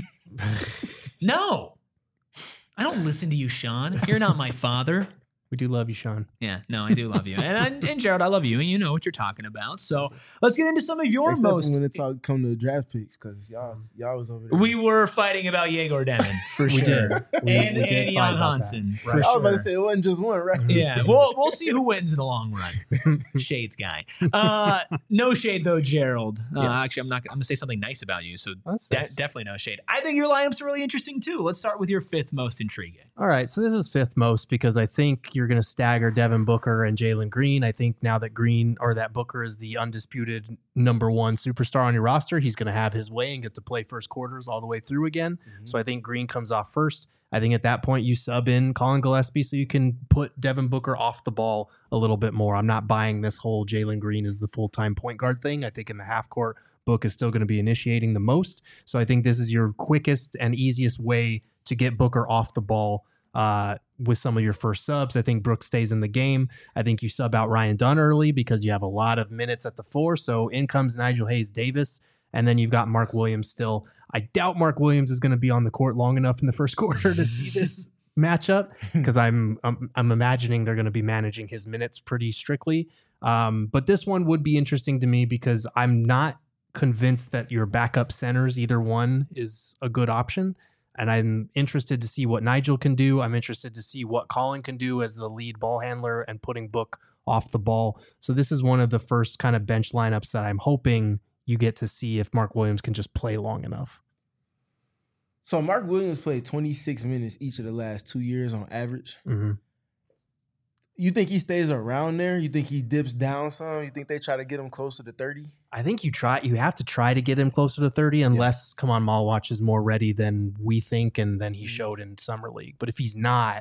No. I don't listen to you, Sean. You're not my father. We do love you, Sean. Yeah, no, I do love you. And, I, and Gerald, I love you, and you know what you're talking about. So let's get into some of your Except most... when it's all come to draft picks, because y'all, y'all was over there. We were fighting about Yegor Demon, for we sure. Did. We, and we and Jan Hansen, for right. sure. I was about to say, it wasn't just one, right? Yeah, we'll, we'll see who wins in the long run. Shades guy. Uh, no shade, though, Gerald. Uh, yes. Actually, I'm not. I'm going to say something nice about you, so de- nice. definitely no shade. I think your lineups are really interesting, too. Let's start with your fifth most intriguing. All right, so this is fifth most because I think you're going to stagger Devin Booker and Jalen Green. I think now that Green or that Booker is the undisputed number one superstar on your roster, he's going to have his way and get to play first quarters all the way through again. Mm-hmm. So I think Green comes off first. I think at that point you sub in Colin Gillespie so you can put Devin Booker off the ball a little bit more. I'm not buying this whole Jalen Green is the full-time point guard thing. I think in the half court, Book is still going to be initiating the most. So I think this is your quickest and easiest way to get Booker off the ball uh, with some of your first subs. I think Brooks stays in the game. I think you sub out Ryan Dunn early because you have a lot of minutes at the four. So in comes Nigel Hayes-Davis, and then you've got Mark Williams still. I doubt Mark Williams is going to be on the court long enough in the first quarter to see this matchup because I'm, I'm I'm imagining they're going to be managing his minutes pretty strictly. Um, but this one would be interesting to me because I'm not convinced that your backup centers, either one, is a good option. And I'm interested to see what Nigel can do. I'm interested to see what Colin can do as the lead ball handler and putting Book off the ball. So this is one of the first kind of bench lineups that I'm hoping you get to see if Mark Williams can just play long enough. So Mark Williams played twenty-six minutes each of the last two years on average. Mm-hmm. You think he stays around there? You think he dips down some? You think they try to get him closer to thirty? I think you try. You have to try to get him closer to thirty unless yeah. Come On Malwatch is more ready than we think and than he showed in Summer League. But if he's not,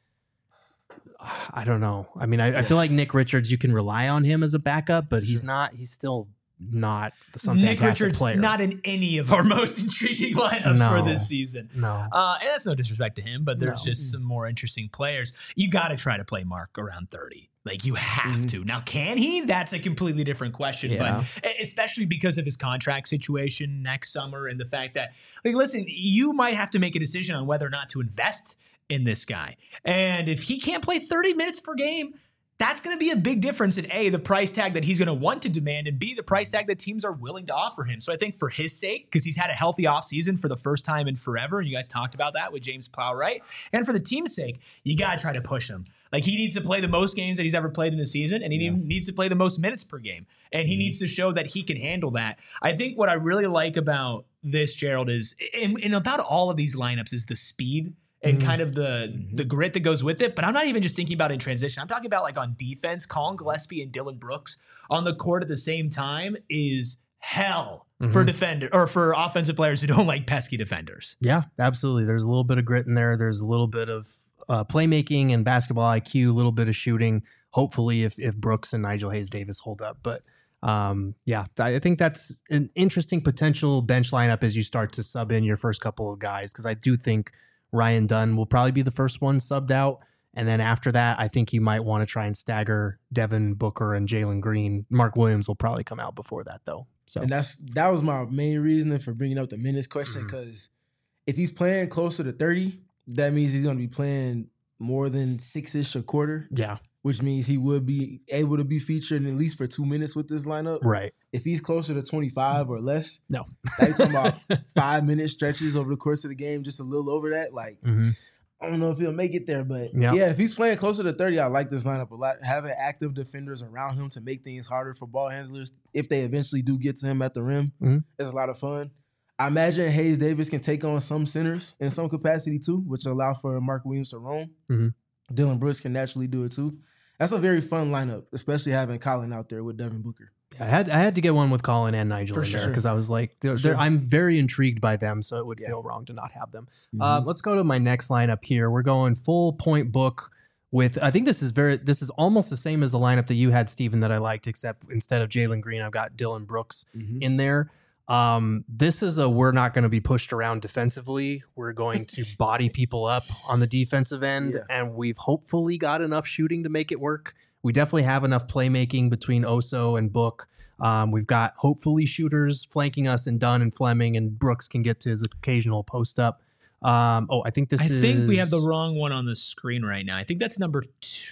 I don't know. I mean, I, I feel like Nick Richards, you can rely on him as a backup, but he's not. He's still not some Nick fantastic Richards, player. Not in any of our most intriguing lineups no, for this season. No. Uh, and that's no disrespect to him, but there's no. just some more interesting players. You got to try to play Mark around thirty. Like, you have mm-hmm. to. Now, can he? That's a completely different question. Yeah. But especially because of his contract situation next summer and the fact that, like, listen, you might have to make a decision on whether or not to invest in this guy. And if he can't play thirty minutes per game, that's going to be a big difference in A, the price tag that he's going to want to demand, and B, the price tag that teams are willing to offer him. So I think for his sake, because he's had a healthy offseason for the first time in forever, and you guys talked about that with James Plowright, and for the team's sake, you got to try to push him. Like, he needs to play the most games that he's ever played in a season, and he yeah. needs to play the most minutes per game, and he mm-hmm. needs to show that he can handle that. I think what I really like about this, Gerald, is in, in about all of these lineups is the speed and Mm-hmm. kind of the Mhm. the grit that goes with it. But I'm not even just thinking about in transition. I'm talking about like on defense. Colin Gillespie and Dylan Brooks on the court at the same time is hell Mhm. for defender or for offensive players who don't like pesky defenders. Yeah, absolutely. There's a little bit of grit in there. There's a little bit of uh, playmaking and basketball I Q, a little bit of shooting. Hopefully, if if Brooks and Nigel Hayes Davis hold up, but um, yeah, I think that's an interesting potential bench lineup as you start to sub in your first couple of guys, because I do think Ryan Dunn will probably be the first one subbed out. And then after that, I think you might want to try and stagger Devin Booker and Jalen Green. Mark Williams will probably come out before that, though. So And that's that was my main reasoning for bringing up the minutes question, Mhm. because if he's playing closer to thirty, that means he's going to be playing more than six-ish a quarter, yeah, which means he would be able to be featured at least for two minutes with this lineup. right. If he's closer to twenty-five or less, No. now you're talking about five-minute stretches over the course of the game, just a little over that. Like, Mm-hmm. I don't know if he'll make it there, but Yeah. yeah, if he's playing closer to thirty, I like this lineup a lot. Having active defenders around him to make things harder for ball handlers, if they eventually do get to him at the rim, Mhm. is a lot of fun. I imagine Hayes Davis can take on some centers in some capacity too, which allow for Mark Williams to roam. Mhm. Dylan Brooks can naturally do it too. That's a very fun lineup, especially having Colin out there with Devin Booker. I had I had to get one with Colin and Nigel For in there sure. because I was like, they're, For they're, sure. I'm very intrigued by them, so it would Yeah. feel wrong to not have them. Mm-hmm. Uh, let's go to my next lineup here. We're going full point book with. I think this is very. This is almost the same as the lineup that you had, Steven, that I liked, except instead of Jalen Green, I've got Dylan Brooks Mhm. in there. Um, this is a we're not going to be pushed around defensively. We're going to body people up on the defensive end, Yeah. and we've hopefully got enough shooting to make it work. We definitely have enough playmaking between Oso and Book. Um, we've got hopefully shooters flanking us and Dunn and Fleming, and Brooks can get to his occasional post up. Um, oh, I think this I is. think we have the wrong one on the screen right now. I think that's number two.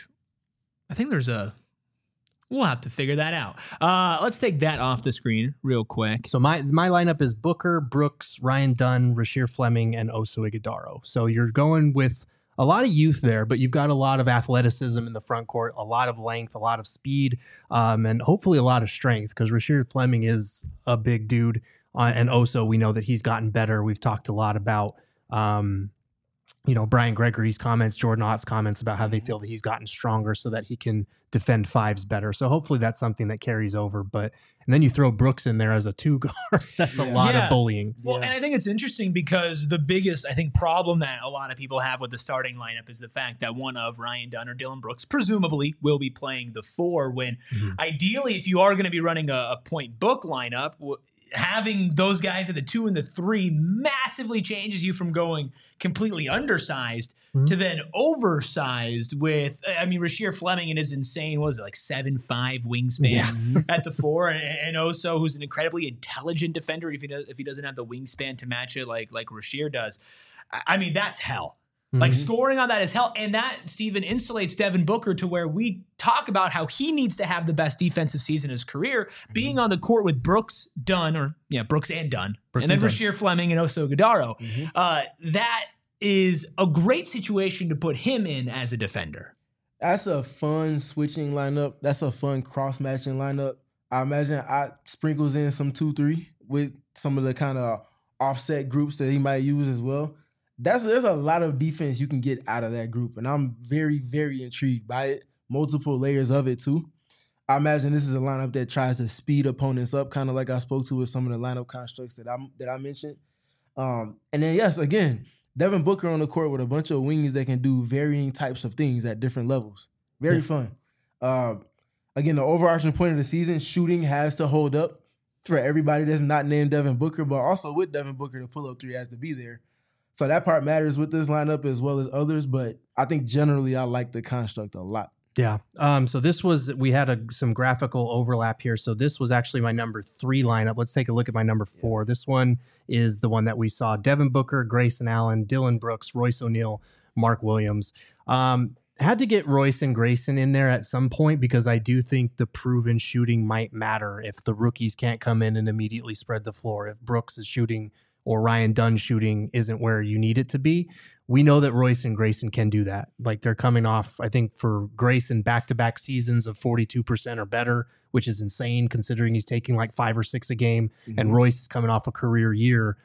I think there's a. We'll have to figure that out. Uh, let's take that off the screen real quick. So my my lineup is Booker, Brooks, Ryan Dunn, Rasheer Fleming, and Oso Ighodaro. So you're going with a lot of youth there, but you've got a lot of athleticism in the front court, a lot of length, a lot of speed, um, and hopefully a lot of strength, because Rasheer Fleming is a big dude. Uh, and Oso, we know that he's gotten better. We've talked a lot about, um, you know, Brian Gregory's comments, Jordan Ott's comments about how they feel that he's gotten stronger so that he can defend fives better. So hopefully that's something that carries over. But and then you throw Brooks in there as a two guard. That's a Yeah. lot Yeah. of bullying. Well, Yeah. and I think it's interesting because the biggest, I think, problem that a lot of people have with the starting lineup is the fact that one of Ryan Dunn or Dylan Brooks presumably will be playing the four when Mhm. ideally, if you are going to be running a, a point book lineup, w- having those guys at the two and the three massively changes you from going completely undersized Mhm. to then oversized with, I mean, Rasheer Fleming and his insane, what was it, like seven five wingspan Yeah. at the four, and, and Oso, who's an incredibly intelligent defender if he does, if he doesn't have the wingspan to match it like like Rasheer does. I, I mean, that's hell. Like Mhm. scoring on that is hell. And that, Steven, insulates Devin Booker to where we talk about how he needs to have the best defensive season in his career, being on the court with Brooks, Dunn, or yeah, Brooks and Dunn, Brooks and then and Dunn. Rasheer Fleming and Oso Ighodaro. Mhm. Uh, that is a great situation to put him in as a defender. That's a fun switching lineup. That's a fun cross matching lineup. I imagine I sprinkles in some two three with some of the kind of offset groups that he might use as well. That's there's a lot of defense you can get out of that group, and I'm very very intrigued by it. Multiple layers of it too. I imagine this is a lineup that tries to speed opponents up, kind of like I spoke to with some of the lineup constructs that I that I mentioned. Um, and then yes, again, Devin Booker on the court with a bunch of wings that can do varying types of things at different levels. Very Yeah. fun. Uh, again, the overarching point of the season, shooting has to hold up for everybody that's not named Devin Booker, but also with Devin Booker, the pull-up three has to be there. So that part matters with this lineup as well as others, but I think generally I like the construct a lot. Yeah. Um, so this was, we had a, some graphical overlap here. So this was actually my number three lineup. Let's take a look at my number four. This one is the one that we saw: Devin Booker, Grayson Allen, Dylan Brooks, Royce O'Neal, Mark Williams. Um, had to get Royce and Grayson in there at some point because I do think the proven shooting might matter if the rookies can't come in and immediately spread the floor. If Brooks is shooting or Ryan Dunn shooting isn't where you need it to be, we know that Royce and Grayson can do that. Like, they're coming off, I think for Grayson, back-to-back seasons of forty-two percent or better, which is insane considering he's taking like five or six a game. Mhm. And Royce is coming off a career year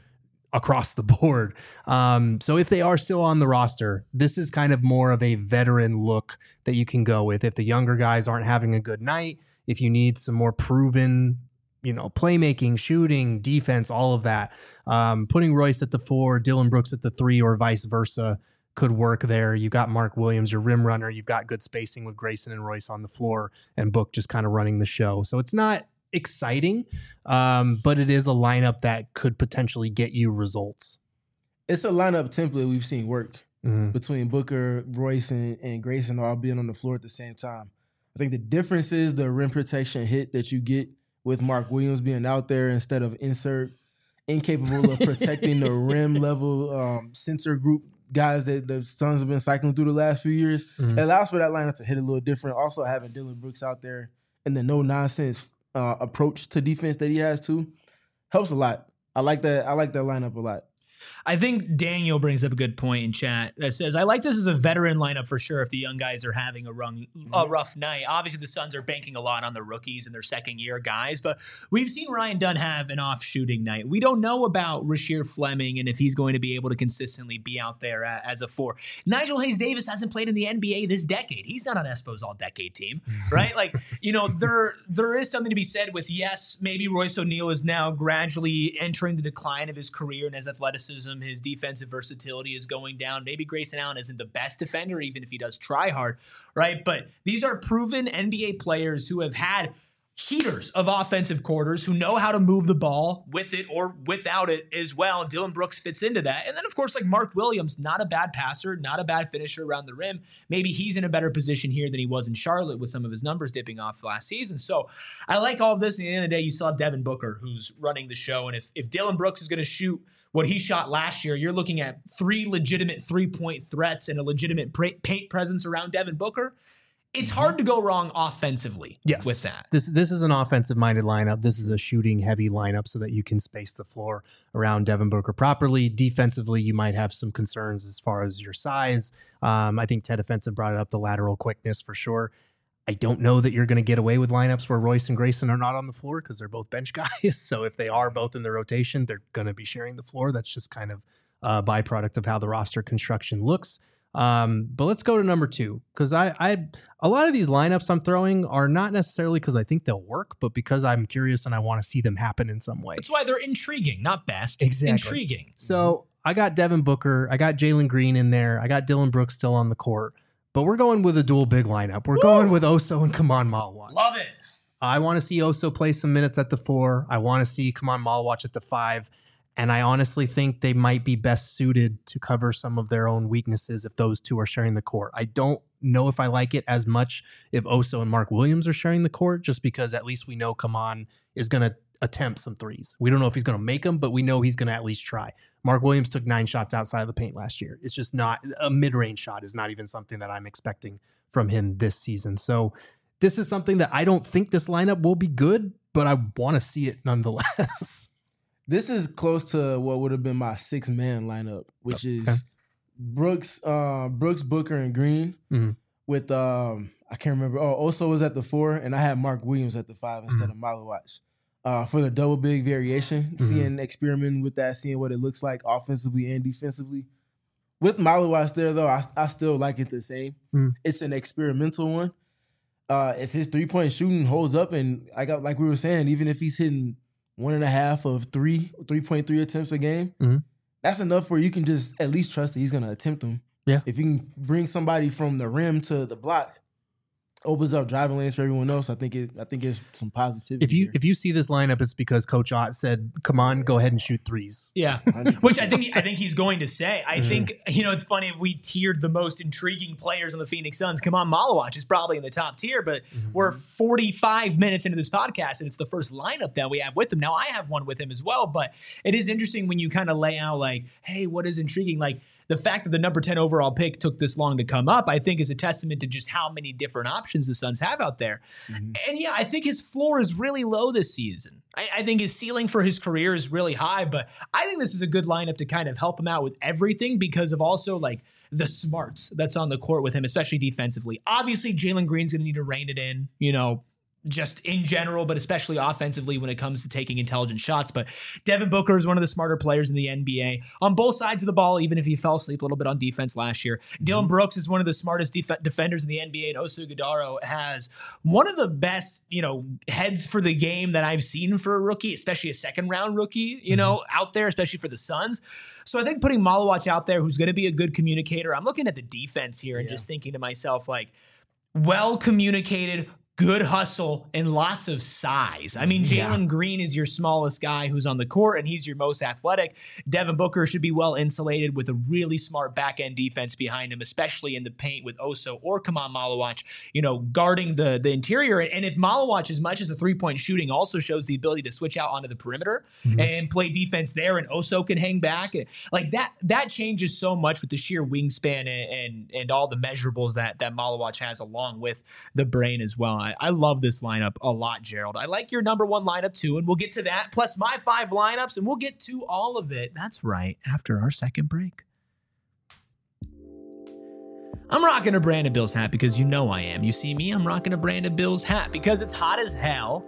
across the board. Um, so if they are still on the roster, this is kind of more of a veteran look that you can go with. If the younger guys aren't having a good night, if you need some more proven, you know, playmaking, shooting, defense, all of that, um, putting Royce at the four, Dillon Brooks at the three, or vice versa could work there. You got Mark Williams, your rim runner. You've got good spacing with Grayson and Royce on the floor, and Book just kind of running the show. So it's not exciting, um, but it is a lineup that could potentially get you results. It's a lineup template we've seen work Mm-hmm. between Booker, Royce, and, and Grayson all being on the floor at the same time. I think the difference is the rim protection hit that you get with Mark Williams being out there instead of insert, incapable of protecting the rim level um, center group guys that the Suns have been cycling through the last few years. Mm-hmm. It allows for that lineup to hit a little different. Also having Dillon Brooks out there and the no nonsense uh, approach to defense that he has too helps a lot. I like that. I like that lineup a lot. I think Daniel brings up a good point in chat that says, I like this as a veteran lineup for sure if the young guys are having a, rung, a rough night. Obviously, the Suns are banking a lot on the rookies and their second-year guys, but we've seen Ryan Dunn have an off-shooting night. We don't know about Rasheer Fleming and if he's going to be able to consistently be out there as a four. Nigel Hayes-Davis hasn't played in the N B A this decade. He's not on Espo's all-decade team, right? Like, you know, there there is something to be said with, yes, maybe Royce O'Neal is now gradually entering the decline of his career and his athleticism. His defensive versatility is going down. Maybe Grayson Allen isn't the best defender, even if he does try hard, right? But these are proven N B A players who have had heaters of offensive quarters, who know how to move the ball with it or without it as well. Dillon Brooks fits into that. And then, of course, like Mark Williams, not a bad passer, not a bad finisher around the rim. Maybe he's in a better position here than he was in Charlotte with some of his numbers dipping off last season. So I like all of this. At the end of the day, you still have Devin Booker, who's running the show. And if, if Dillon Brooks is going to shoot what he shot last year, you're looking at three legitimate three-point threats and a legitimate paint presence around Devin Booker. It's hard to go wrong offensively yes. with that. This this is an offensive-minded lineup. This is a shooting-heavy lineup so that you can space the floor around Devin Booker properly. Defensively, you might have some concerns as far as your size. Um, I think Ted Offensive brought up the lateral quickness for sure. I don't know that you're going to get away with lineups where Royce and Grayson are not on the floor because they're both bench guys. So if they are both in the rotation, they're going to be sharing the floor. That's just kind of a byproduct of how the roster construction looks. Um, but let's go to number two, because I, I, a lot of these lineups I'm throwing are not necessarily because I think they'll work, but because I'm curious and I want to see them happen in some way. That's why they're intriguing, not best. Exactly. Intriguing. So I got Devin Booker, I got Jalen Green in there, I got Dillon Brooks still on the court, but we're going with a dual big lineup. We're Woo! going with Oso and Kaman Malawach. Love it. I want to see Oso play some minutes at the four. I want to see Kaman Malawach at the five. And I honestly think they might be best suited to cover some of their own weaknesses if those two are sharing the court. I don't know if I like it as much if Oso and Mark Williams are sharing the court, just because at least we know Kaman is going to attempt some threes. We don't know if he's going to make them, but we know he's going to at least try. Mark Williams took nine shots outside of the paint last year. It's just not a mid-range shot is not even something that I'm expecting from him this season. So this is something that I don't think this lineup will be good, but I want to see it nonetheless. This is close to what would have been my six-man lineup, which okay. is Brooks, uh, Brooks, Booker, and Green. Mm-hmm. With um, I can't remember. Oh, Oso was at the four, and I had Mark Williams at the five instead mm-hmm. of Malawach. Uh, for the double big variation, mm-hmm. seeing experimenting with that, seeing what it looks like offensively and defensively. With Malawach there, though, I, I still like it the same. Mm-hmm. It's an experimental one. Uh, if his three-point shooting holds up, and I got like we were saying, even if he's hitting one and a half of three, three point three attempts a game, mm-hmm. that's enough where you can just at least trust that he's going to attempt them. Yeah. If you can bring somebody from the rim to the block, opens up driving lanes for everyone else. I think it. I think it's some positivity. If you here. if you see this lineup, it's because Coach Ott said, "Come on, go ahead and shoot threes." Yeah, which I think I think he's going to say. I mm-hmm. think you know it's funny if we tiered the most intriguing players on the Phoenix Suns. Kaman Malawach is probably in the top tier, but mm-hmm. we're forty-five minutes into this podcast, and it's the first lineup that we have with him. Now I have one with him as well, but it is interesting when you kind of lay out like, hey, what is intriguing? Like, the fact that the number ten overall pick took this long to come up, I think is a testament to just how many different options the Suns have out there. Mm-hmm. And yeah, I think his floor is really low this season. I, I think his ceiling for his career is really high, but I think this is a good lineup to kind of help him out with everything because of also like the smarts that's on the court with him, especially defensively. Obviously, Jalen Green's going to need to rein it in, you know, just in general, but especially offensively when it comes to taking intelligent shots. But Devin Booker is one of the smarter players in the N B A on both sides of the ball, even if he fell asleep a little bit on defense last year. Dylan Brooks is one of the smartest def- defenders in the N B A, and Oso Ighodaro has one of the best, you know, heads for the game that I've seen for a rookie, especially a second round rookie, you know, mm-hmm. out there, especially for the Suns. So I think putting Malawach out there, who's going to be a good communicator, I'm looking at the defense here and yeah. just thinking to myself, like, well communicated, good hustle, and lots of size. I mean, Jalen yeah. Green is your smallest guy who's on the court, and he's your most athletic. Devin Booker should be well insulated with a really smart back-end defense behind him, especially in the paint with Oso or Kaman Malawach, you know, guarding the, the interior. And if Malawach, as much as the three-point shooting, also shows the ability to switch out onto the perimeter mm-hmm. and play defense there, and Oso can hang back, like that, that changes so much with the sheer wingspan and and, and all the measurables that, that Malawach has along with the brain as well. I love this lineup a lot, Gerald. I like your number one lineup too, and we'll get to that, plus my five lineups, and we'll get to all of it. That's right, after our second break. I'm rocking a Brandon Bills hat because you know I am. You see me, I'm rocking a Brandon Bills hat because it's hot as hell.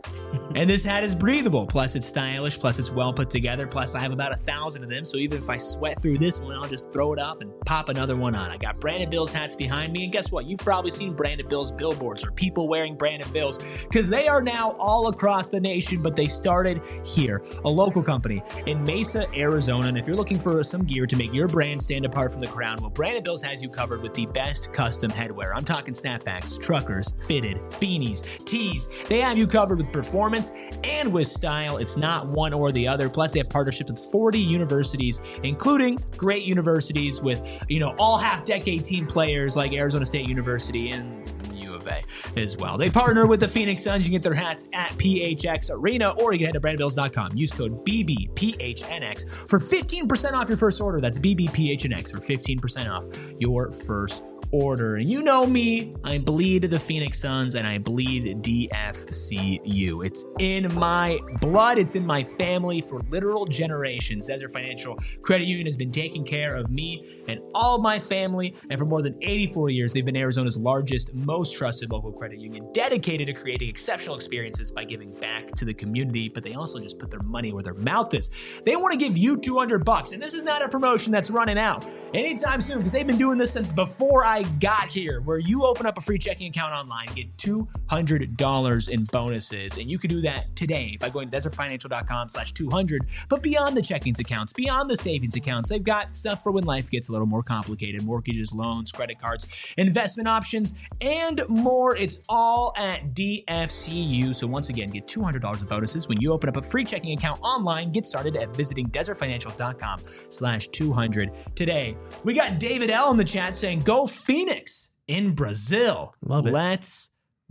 And this hat is breathable. Plus, it's stylish. Plus, it's well put together. Plus, I have about a thousand of them. So even if I sweat through this one, I'll just throw it up and pop another one on. I got Brandon Bills hats behind me. And guess what? You've probably seen Brandon Bills billboards or people wearing Brandon Bills because they are now all across the nation. But they started here, a local company in Mesa, Arizona. And if you're looking for some gear to make your brand stand apart from the crowd, well, Brandon Bills has you covered with the best custom headwear. I'm talking snapbacks, truckers, fitted, beanies, tees. They have you covered with performance and with style. It's not one or the other. Plus, they have partnerships with forty universities, including great universities with, you know, all half-decade team players like Arizona State University and U of A as well. They partner with the Phoenix Suns. You can get their hats at P H X Arena, or you can head to brandon bills dot com. Use code B B P H N X for fifteen percent off your first order. That's B B P H N X for fifteen percent off your first order. And you know me, I bleed the Phoenix Suns and I bleed D F C U. It's in my blood. It's in my family for literal generations. Desert Financial Credit Union has been taking care of me and all my family. And for more than eighty-four years, they've been Arizona's largest, most trusted local credit union, dedicated to creating exceptional experiences by giving back to the community. But they also just put their money where their mouth is. They want to give you two hundred bucks. And this is not a promotion that's running out anytime soon because they've been doing this since before I got here, where you open up a free checking account online, get two hundred dollars in bonuses. And you can do that today by going to desert financial dot com slash two hundred. But beyond the checkings accounts, beyond the savings accounts, they've got stuff for when life gets a little more complicated: mortgages, loans, credit cards, investment options, and more. It's all at D F C U. So once again, get two hundred dollars in bonuses when you open up a free checking account online. Get started at visiting desert financial dot com slash two hundred today. We got David L in the chat saying, "Go Phoenix in Brazil." Love it. Let's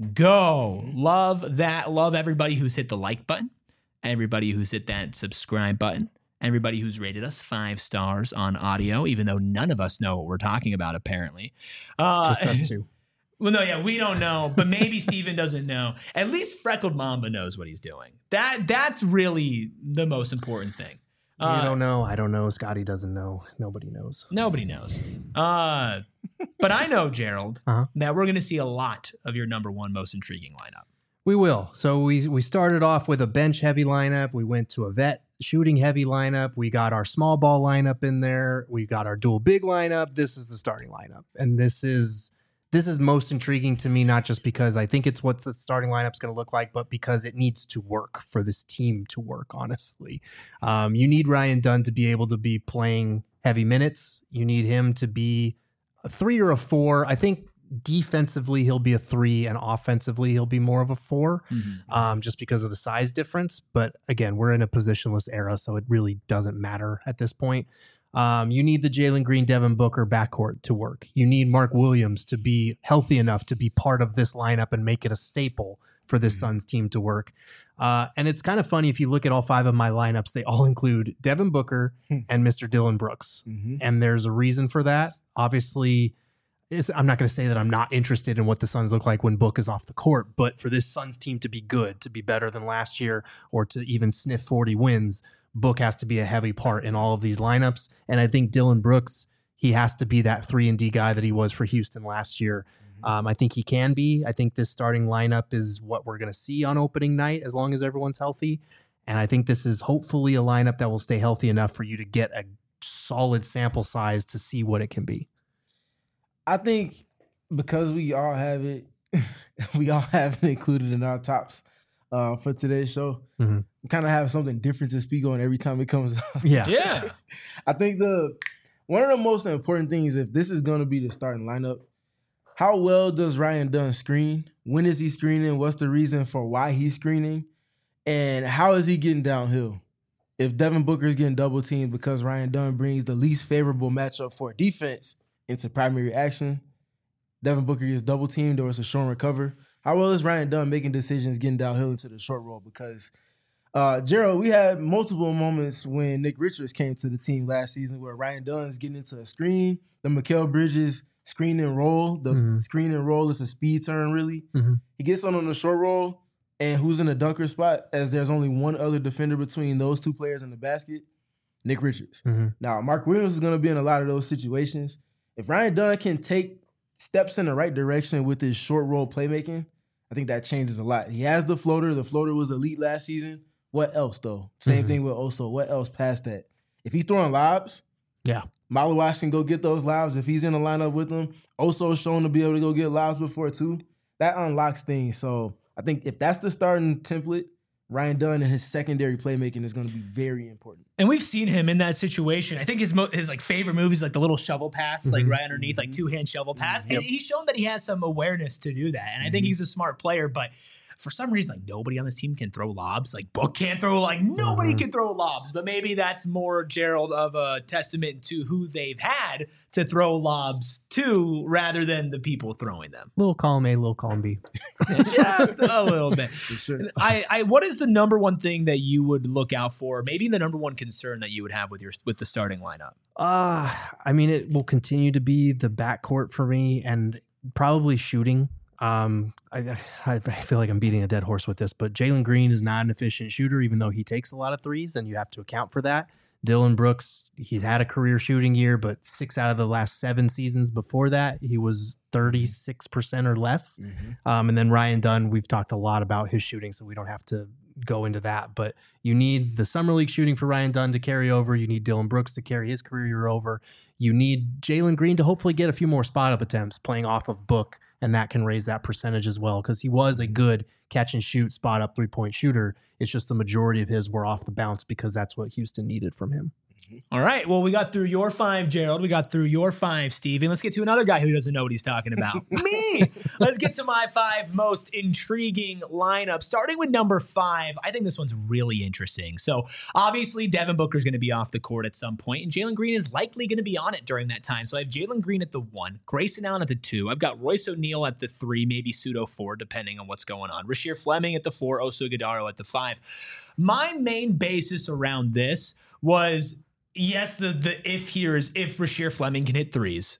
go. Love that. Love everybody who's hit the like button, everybody who's hit that subscribe button, everybody who's rated us five stars on audio, even though none of us know what we're talking about, apparently. Uh, Just us two. Well, no, yeah, we don't know, but maybe Steven doesn't know. At least Freckled Mamba knows what he's doing. That That's really the most important thing. You uh, don't know. I don't know. Scotty doesn't know. Nobody knows. Nobody knows. Uh, but I know, Gerald, uh-huh. that we're going to see a lot of your number one most intriguing lineup. We will. So we we started off with a bench heavy lineup. We went to a vet shooting heavy lineup. We got our small ball lineup in there. We got our dual big lineup. This is the starting lineup. And this is this is most intriguing to me, not just because I think it's what the starting lineup's going to look like, but because it needs to work for this team to work, honestly. Um, you need Ryan Dunn to be able to be playing heavy minutes. You need him to be a three or a four. I think defensively he'll be a three, and offensively he'll be more of a four, mm-hmm. um, just because of the size difference. But again, we're in a positionless era, so it really doesn't matter at this point. Um, you need the Jalen Green, Devin Booker backcourt to work. You need Mark Williams to be healthy enough to be part of this lineup and make it a staple for this mm-hmm. Suns team to work. Uh, and it's kind of funny, if you look at all five of my lineups, they all include Devin Booker and Mister Dylan Brooks. Mm-hmm. And there's a reason for that. Obviously, it's, I'm not going to say that I'm not interested in what the Suns look like when Book is off the court, but for this Suns team to be good, to be better than last year, or to even sniff forty wins, Book has to be a heavy part in all of these lineups. And I think Dylan Brooks, he has to be that three and D guy that he was for Houston last year. Mm-hmm. Um, I think he can be. I think this starting lineup is what we're going to see on opening night as long as everyone's healthy. And I think this is hopefully a lineup that will stay healthy enough for you to get a solid sample size to see what it can be. I think because we all have it, we all have it included in our tops uh, for today's show. Mm-hmm. We kind of have something different to speak on every time it comes up. Yeah. Yeah. I think the one of the most important things, if this is going to be the starting lineup, how well does Ryan Dunn screen? When is he screening? What's the reason for why he's screening? And how is he getting downhill? If Devin Booker is getting double teamed because Ryan Dunn brings the least favorable matchup for defense into primary action, Devin Booker gets double teamed or it's a short recover. How well is Ryan Dunn making decisions getting downhill into the short roll? Because, uh, Gerald, we had multiple moments when Nick Richards came to the team last season where Ryan Dunn's getting into a screen, the Mikal Bridges screen and roll. The mm-hmm. screen and roll is a speed turn, really. Mm-hmm. He gets on on the short roll, and who's in the dunker spot as there's only one other defender between those two players in the basket? Nick Richards. Mm-hmm. Now, Mark Williams is going to be in a lot of those situations. If Ryan Dunn can take steps in the right direction with his short roll playmaking, I think that changes a lot. He has the floater. The floater was elite last season. What else, though? Same mm-hmm. thing with Oso. What else past that? If he's throwing lobs, yeah, Malawash can go get those lobs. If he's in the lineup with them, Oso's shown to be able to go get lobs before, too. That unlocks things. So I think if that's the starting template, Ryan Dunn and his secondary playmaking is going to be very important. And we've seen him in that situation. I think his mo- his like favorite move is like the little shovel pass, mm-hmm. like right underneath, like two hand shovel pass. Mm-hmm. And yep. he's shown that he has some awareness to do that. And I mm-hmm. think he's a smart player, but for some reason, like nobody on this team can throw lobs. Like Book can't throw, like nobody mm-hmm. can throw lobs. But maybe that's more, Gerald, of a testament to who they've had to throw lobs to rather than the people throwing them. Little column A, little column B. Just a little bit. For sure. I, I, what is the number one thing that you would look out for? Maybe the number one concern that you would have with your with the starting lineup? Uh, I mean, it will continue to be the backcourt for me and probably shooting. Um, I, I feel like I'm beating a dead horse with this, but Jalen Green is not an efficient shooter, even though he takes a lot of threes, and you have to account for that. Dillon Brooks, he's had a career shooting year, but six out of the last seven seasons before that, he was thirty-six percent or less. Mm-hmm. Um, and then Ryan Dunn, we've talked a lot about his shooting, so we don't have to go into that. But you need the Summer League shooting for Ryan Dunn to carry over. You need Dillon Brooks to carry his career year over. You need Jalen Green to hopefully get a few more spot-up attempts playing off of Book, and that can raise that percentage as well because he was a good catch-and-shoot, spot-up three-point shooter. It's just the majority of his were off the bounce because that's what Houston needed from him. All right. Well, we got through your five, Gerald. We got through your five, Steve. And let's get to another guy who doesn't know what he's talking about. Me. Let's get to my five most intriguing lineups. Starting with number five, I think this one's really interesting. So obviously, Devin Booker is going to be off the court at some point, and Jalen Green is likely going to be on it during that time. So I have Jalen Green at the one, Grayson Allen at the two. I've got Royce O'Neal at the three, maybe pseudo four, depending on what's going on. Rasheer Fleming at the four, Oso Ighodaro at the five. My main basis around this was, yes, the the if here is if Rasheer Fleming can hit threes.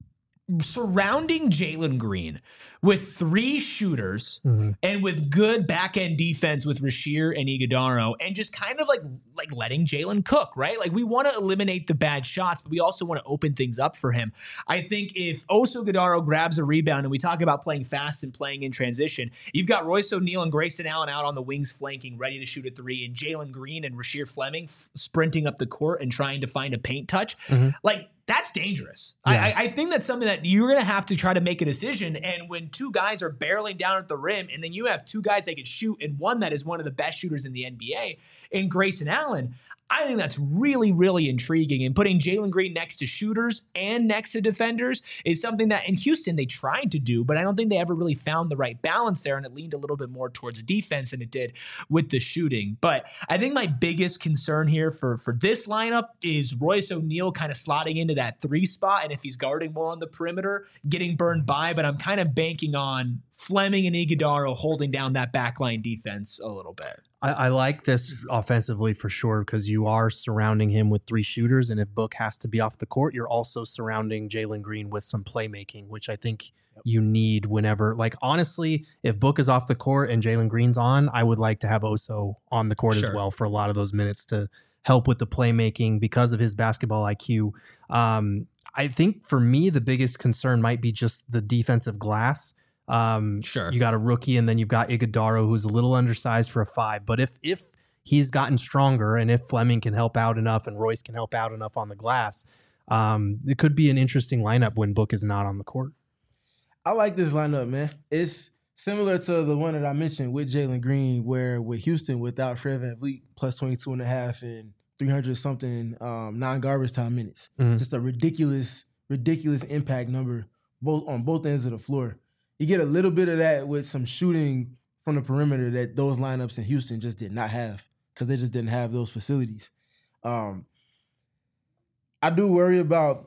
Surrounding Jalen Green with three shooters mm-hmm. and with good back-end defense with Rasheer and Ighodaro, and just kind of like like letting Jalen cook, right? Like we want to eliminate the bad shots, but we also want to open things up for him. I think if Oso Ighodaro grabs a rebound, and we talk about playing fast and playing in transition, you've got Royce O'Neal and Grayson Allen out on the wings flanking, ready to shoot a three, and Jalen Green and Rasheer Fleming f- sprinting up the court and trying to find a paint touch. Mm-hmm. Like, that's dangerous. Yeah. I, I think that's something that you're going to have to try to make a decision. And when two guys are barreling down at the rim, and then you have two guys that can shoot, and one that is one of the best shooters in the N B A, in Grayson Allen, I think that's really, really intriguing. And putting Jalen Green next to shooters and next to defenders is something that in Houston they tried to do, but I don't think they ever really found the right balance there, and it leaned a little bit more towards defense than it did with the shooting. But I think my biggest concern here for, for this lineup is Royce O'Neal kind of slotting into that three spot, and if he's guarding more on the perimeter, getting burned by, but I'm kind of banking on Fleming and Ighodaro holding down that backline defense a little bit. I, I like this offensively for sure because you are surrounding him with three shooters, and if Book has to be off the court, you're also surrounding Jalen Green with some playmaking, which I think yep. you need whenever. Like, honestly, if Book is off the court and Jalen Green's on, I would like to have Oso on the court sure. as well for a lot of those minutes to help with the playmaking because of his basketball I Q. Um, I think for me, the biggest concern might be just the defensive glass. Um, Sure. You got a rookie, and then you've got Iguodaro, who's a little undersized for a five. But if if he's gotten stronger, and if Fleming can help out enough, and Royce can help out enough on the glass, um, it could be an interesting lineup when Book is not on the court. I like this lineup, man. It's similar to the one that I mentioned with Jalen Green, where with Houston, without Fred VanVleet, plus twenty-two and a half and three hundred something um, non-garbage time minutes. Mm-hmm. Just a ridiculous, ridiculous impact number both on both ends of the floor. You get a little bit of that with some shooting from the perimeter that those lineups in Houston just did not have because they just didn't have those facilities. Um, I do worry about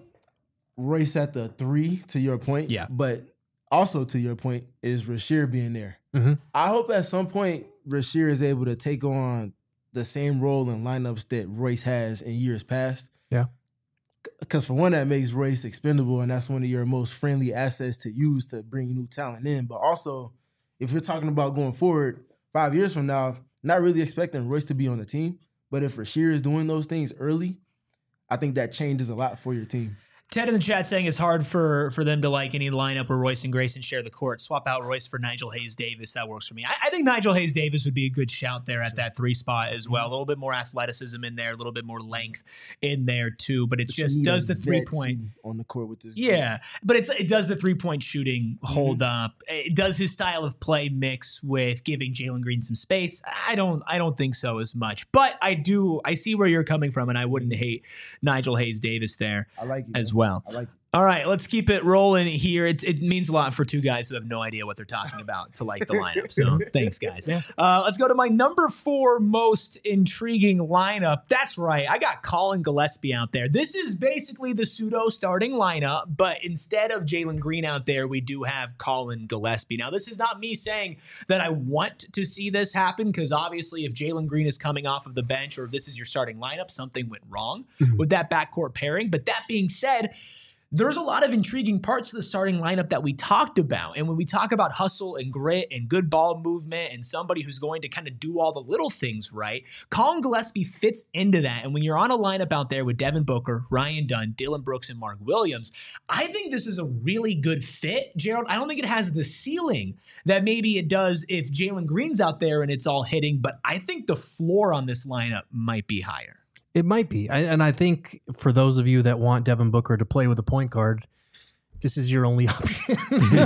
Royce at the three, to your point. Yeah. But also to your point is Rasheer being there. Mm-hmm. I hope at some point Rasheer is able to take on the same role in lineups that Royce has in years past. Yeah. Because for one, that makes Royce expendable, and that's one of your most friendly assets to use to bring new talent in. But also, if you're talking about going forward five years from now, not really expecting Royce to be on the team, but if Rasheer is doing those things early, I think that changes a lot for your team. Ted in the chat saying it's hard for for them to like any lineup where Royce and Grayson share the court. Swap out Royce for Nigel Hayes-Davis. That works for me. I, I think Nigel Hayes-Davis would be a good shout there at that three spot as well. A little bit more athleticism in there, a little bit more length in there too. But it But just you need does a the three vet, point. too, on the court with this. Yeah, but it's it does the three point shooting hold up. It does his style of play mix with giving Jalen Green some space. I don't I don't think so as much. But I do I see where you're coming from, and I wouldn't hate Nigel Hayes-Davis there I like it as man. well. I like it. All right, let's keep it rolling here. It, it means a lot for two guys who have no idea what they're talking about to like the lineup. So thanks, guys. Yeah. Uh, let's go to my number four most intriguing lineup. That's right. I got Colin Gillespie out there. This is basically the pseudo starting lineup, but instead of Jalen Green out there, we do have Colin Gillespie. Now, this is not me saying that I want to see this happen, because obviously if Jalen Green is coming off of the bench, or if this is your starting lineup, something went wrong mm-hmm. with that backcourt pairing. But that being said, there's a lot of intriguing parts to the starting lineup that we talked about. And when we talk about hustle and grit and good ball movement and somebody who's going to kind of do all the little things right, Colin Gillespie fits into that. And when you're on a lineup out there with Devin Booker, Ryan Dunn, Dillon Brooks, and Mark Williams, I think this is a really good fit, Gerald. I don't think it has the ceiling that maybe it does if Jalen Green's out there and it's all hitting, but I think the floor on this lineup might be higher. It might be. I, and I think for those of you that want Devin Booker to play with a point guard, this is your only option.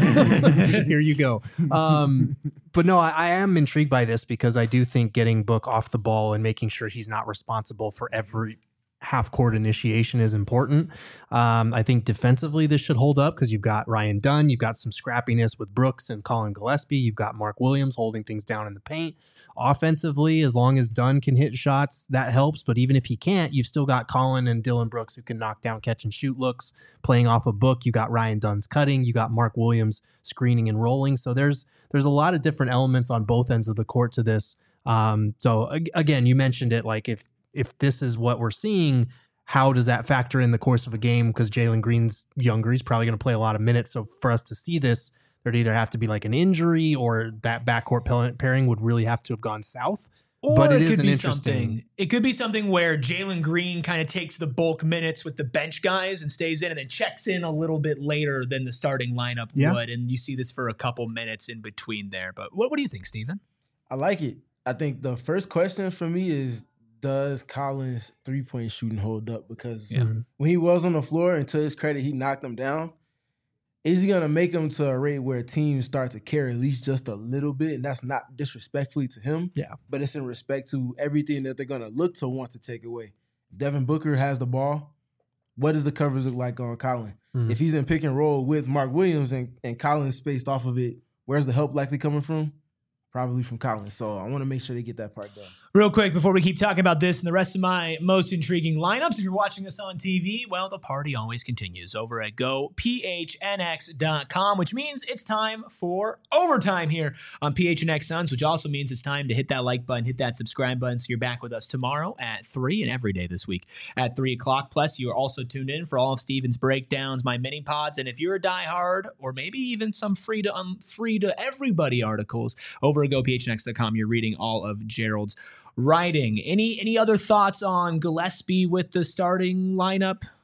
Here you go. Um, but no, I, I am intrigued by this because I do think getting Book off the ball and making sure he's not responsible for every half-court initiation is important. Um, I think defensively this should hold up because you've got Ryan Dunn, you've got some scrappiness with Brooks and Colin Gillespie, you've got Mark Williams holding things down in the paint. Offensively, as long as Dunn can hit shots, that helps. But even if he can't, you've still got Colin and Dillon Brooks who can knock down catch and shoot looks. Playing off a Book, you got Ryan Dunn's cutting, you got Mark Williams screening and rolling. So there's there's a lot of different elements on both ends of the court to this. Um, so again, you mentioned it, like if if this is what we're seeing, how does that factor in the course of a game? Because Jalen Green's younger, he's probably going to play a lot of minutes. So for us to see this, there'd either have to be like an injury or that backcourt pairing would really have to have gone south. Or but it, it is could an be interesting... something. It could be something where Jalen Green kind of takes the bulk minutes with the bench guys and stays in, and then checks in a little bit later than the starting lineup yeah. would. And you see this for a couple minutes in between there. But what, what do you think, Steven? I like it. I think the first question for me is, does Colin's three-point shooting hold up? Because yeah. when he was on the floor, and to his credit, he knocked them down. Is he going to make them to a rate where teams start to care at least just a little bit? And that's not disrespectfully to him. Yeah. But it's in respect to everything that they're going to look to want to take away. If Devin Booker has the ball, what does the coverage look like on Colin? Mm-hmm. If he's in pick and roll with Mark Williams and, and Colin's spaced off of it, where's the help likely coming from? Probably from Colin. So I want to make sure they get that part done. Real quick, before we keep talking about this and the rest of my most intriguing lineups, if you're watching us on T V, well, the party always continues over at go p h n x dot com, which means it's time for overtime here on P H N X Suns, which also means it's time to hit that like button, hit that subscribe button, so you're back with us tomorrow at three and every day this week at three o'clock. Plus, you are also tuned in for all of Steven's breakdowns, my mini pods, and if you're a diehard or maybe even some free to um, free to everybody articles over at go p h n x dot com, you're reading all of Gerald's writing. Any any other thoughts on Gillespie with the starting lineup?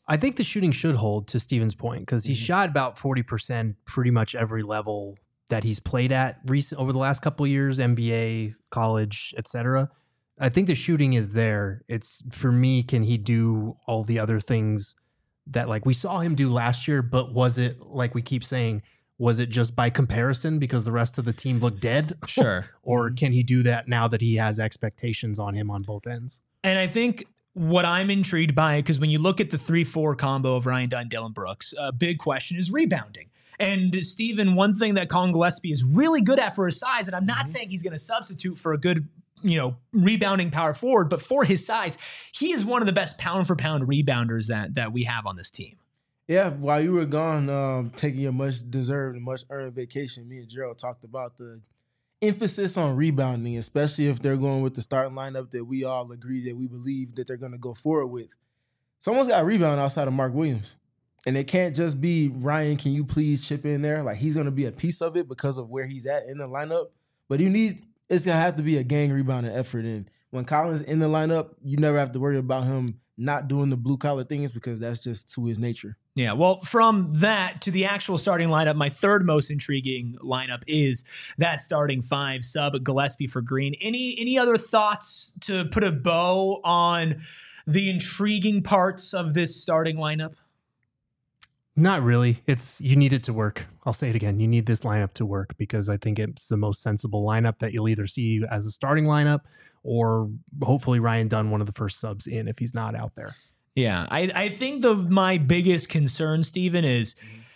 I think the shooting should hold, to Steven's point, because he mm-hmm. shot about forty percent pretty much every level that he's played at recent over the last couple of years, N B A, college, et cetera. I think the shooting is there. It's for me, can he do all the other things that like we saw him do last year, but was it, like we keep saying, was it just by comparison because the rest of the team looked dead? Sure. Or can he do that now that he has expectations on him on both ends? And I think what I'm intrigued by, because when you look at the three four combo of Ryan Dunn, Dillon Brooks, a big question is rebounding. And Steven, one thing that Collin Gillespie is really good at for his size, and I'm not mm-hmm. saying he's going to substitute for a good, you know, rebounding power forward, but for his size, he is one of the best pound for pound rebounders that that we have on this team. Yeah, while you were gone, um, taking your much deserved and much earned vacation, me and Gerald talked about the emphasis on rebounding, especially if they're going with the starting lineup that we all agree that we believe that they're going to go forward with. Someone's got to rebound outside of Mark Williams. And it can't just be, Ryan, can you please chip in there? Like, he's going to be a piece of it because of where he's at in the lineup. But you need, it's going to have to be a gang rebounding effort. And when Collin's in the lineup, you never have to worry about him not doing the blue-collar things because that's just to his nature. Yeah, well, from that to the actual starting lineup, my third most intriguing lineup is that starting five, sub Gillespie for Green. Any any other thoughts to put a bow on the intriguing parts of this starting lineup? Not really. It's you need it to work. I'll say it again. You need this lineup to work because I think it's the most sensible lineup that you'll either see as a starting lineup or hopefully Ryan Dunn, one of the first subs in if he's not out there. Yeah, I, I think the my biggest concern, Steven, is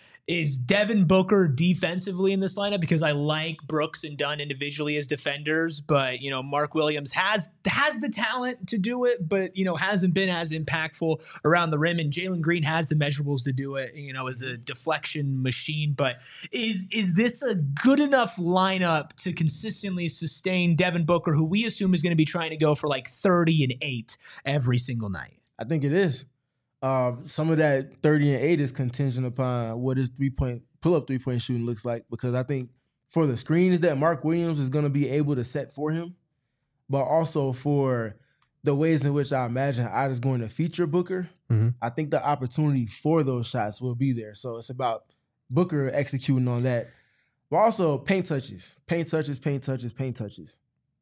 is Devin Booker defensively in this lineup, because I like Brooks and Dunn individually as defenders, but you know Mark Williams has has the talent to do it, but you know hasn't been as impactful around the rim, and Jalen Green has the measurables to do it, you know, as a deflection machine. But is is this a good enough lineup to consistently sustain Devin Booker, who we assume is going to be trying to go for like thirty and eight every single night? I think it is. Uh, some of that thirty and eight is contingent upon what his three-point pull-up three-point shooting looks like, because I think for the screens that Mark Williams is going to be able to set for him, but also for the ways in which I imagine I is going to feature Booker, mm-hmm. I think the opportunity for those shots will be there. So it's about Booker executing on that. But also paint touches, paint touches, paint touches, paint touches.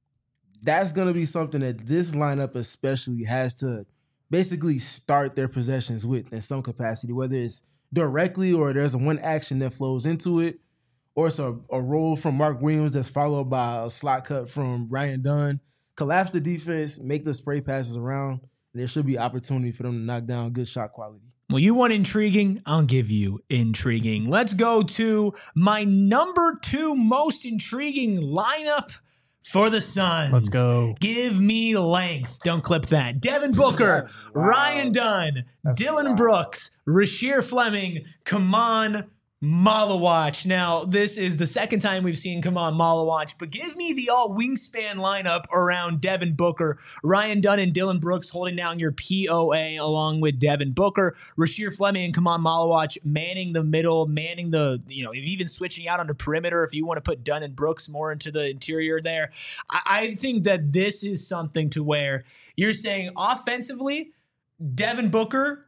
That's going to be something that this lineup especially has to basically start their possessions with in some capacity, whether it's directly or there's one action that flows into it, or it's a, a roll from Mark Williams that's followed by a slot cut from Ryan Dunn. Collapse the defense, make the spray passes around, and there should be opportunity for them to knock down good shot quality. Well, you want intriguing? I'll give you intriguing. Let's go to my number two most intriguing lineup for the Suns. Let's go. Give me length. Don't clip that. Devin Booker, wow. Ryan Dunn, That's Dillon wow. Brooks, Rasheer Fleming, Kaman Malawach. Now, this is the second time we've seen Kaman Malawach, but give me the all wingspan lineup around Devin Booker, Ryan Dunn and Dillon Brooks holding down your P O A along with Devin Booker, Rasheer Fleming and Kaman Malawach manning the middle, manning the, you know, even switching out on the perimeter if you want to put Dunn and Brooks more into the interior there. I, I think that this is something to where you're saying offensively, Devin Booker,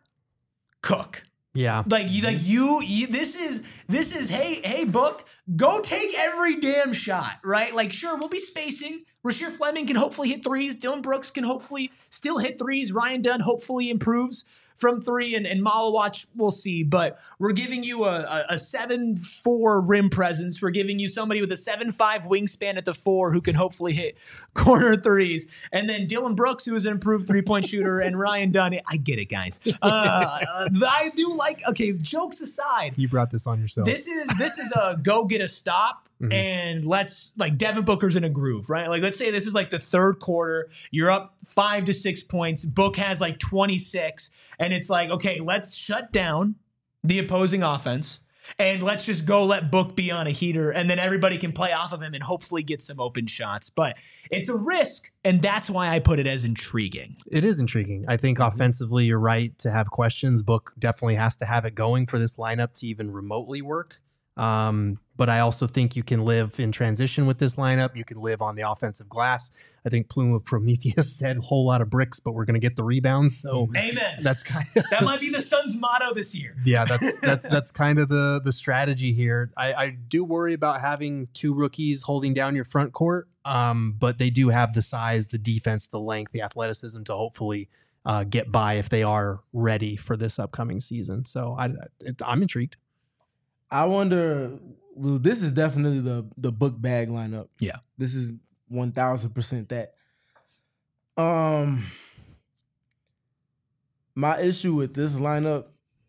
cook. Yeah. Like you, like you, you, this is, this is, hey, hey, Book, go take every damn shot, right? Like, sure, we'll be spacing. Rasheer Fleming can hopefully hit threes. Dillon Brooks can hopefully still hit threes. Ryan Dunn hopefully improves from three, and, and Malawach, we'll see. But we're giving you a, a seven four rim presence. We're giving you somebody with a seven five wingspan at the four who can hopefully hit corner threes. And then Dillon Brooks, who is an improved three-point shooter, and Ryan Dunn. I get it, guys. Uh, I do like, okay, jokes aside. You brought this on yourself. This is, this is a go get a stop. Mm-hmm. And let's, like, Devin Booker's in a groove, right? Like, let's say this is like the third quarter. You're up five to six points. Book has like twenty-six. And it's like, okay, let's shut down the opposing offense and let's just go let Book be on a heater. And then everybody can play off of him and hopefully get some open shots. But it's a risk. And that's why I put it as intriguing. It is intriguing. I think offensively, you're right to have questions. Book definitely has to have it going for this lineup to even remotely work. Um, but I also think you can live in transition with this lineup. You can live on the offensive glass. I think Plume of Prometheus said a whole lot of bricks, but we're going to get the rebounds. So Amen. That's kind of That might be the Suns' motto this year. yeah, that's that's that's kind of the the strategy here. I, I do worry about having two rookies holding down your front court, um, but they do have the size, the defense, the length, the athleticism to hopefully uh, get by if they are ready for this upcoming season. So I, it, I'm intrigued. I wonder. Well, this is definitely the the book bag lineup. Yeah, this is one thousand percent that. Um, my issue with this lineup.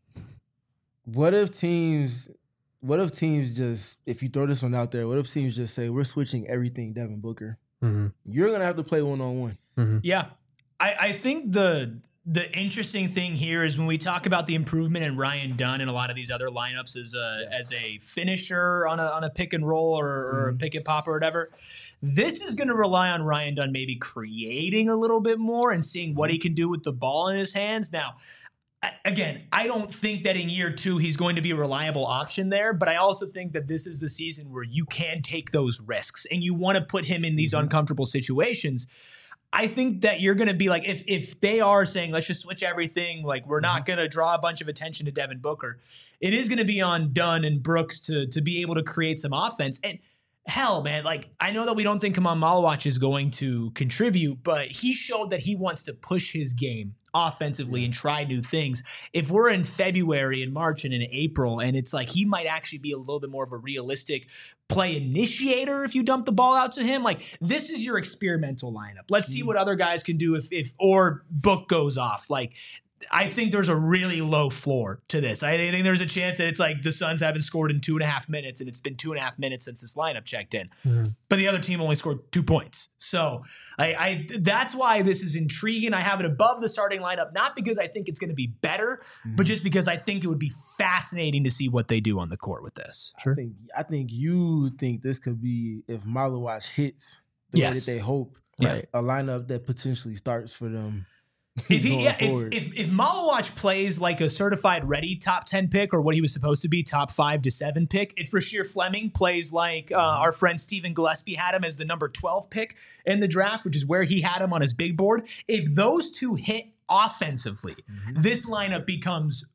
What if teams? What if teams just? If you throw this one out there, what if teams just say we're switching everything Devin Booker? Mm-hmm. You're gonna have to play one on one. Yeah, I, I think the. The interesting thing here is when we talk about the improvement in Ryan Dunn and a lot of these other lineups as a yeah. as a finisher on a on a pick and roll or, or mm-hmm. a pick and pop or whatever, this is going to rely on Ryan Dunn maybe creating a little bit more and seeing what he can do with the ball in his hands. Now, again, I don't think that in year two he's going to be a reliable option there, but I also think that this is the season where you can take those risks and you want to put him in these mm-hmm. uncomfortable situations. I think that you're going to be like, if if they are saying, let's just switch everything, like we're not going to draw a bunch of attention to Devin Booker, it is going to be on Dunn and Brooks to to be able to create some offense. And hell, man, like I know that we don't think Kaman Malawach is going to contribute, but he showed that he wants to push his game offensively yeah. and try new things. If we're in February and March and in April, and it's like he might actually be a little bit more of a realistic play initiator if you dump the ball out to him, like this is your experimental lineup. Let's see what other guys can do if if or Book goes off. Like I think there's a really low floor to this. I think there's a chance that it's like the Suns haven't scored in two and a half minutes, and it's been two and a half minutes since this lineup checked in. Mm-hmm. But the other team only scored two points. So I, I that's why this is intriguing. I have it above the starting lineup, not because I think it's going to be better, mm-hmm. but just because I think it would be fascinating to see what they do on the court with this. Sure. I think I think you think this could be, if Malawach hits the yes. way that they hope, yeah. right, a lineup that potentially starts for them. If he, yeah, if, if if Malawach plays like a certified ready top ten pick or what he was supposed to be, top five to seven pick, if Rasheer Fleming plays like uh, our friend Stephen Gillespie had him as the number twelve pick in the draft, which is where he had him on his big board, if those two hit offensively, mm-hmm. this lineup becomes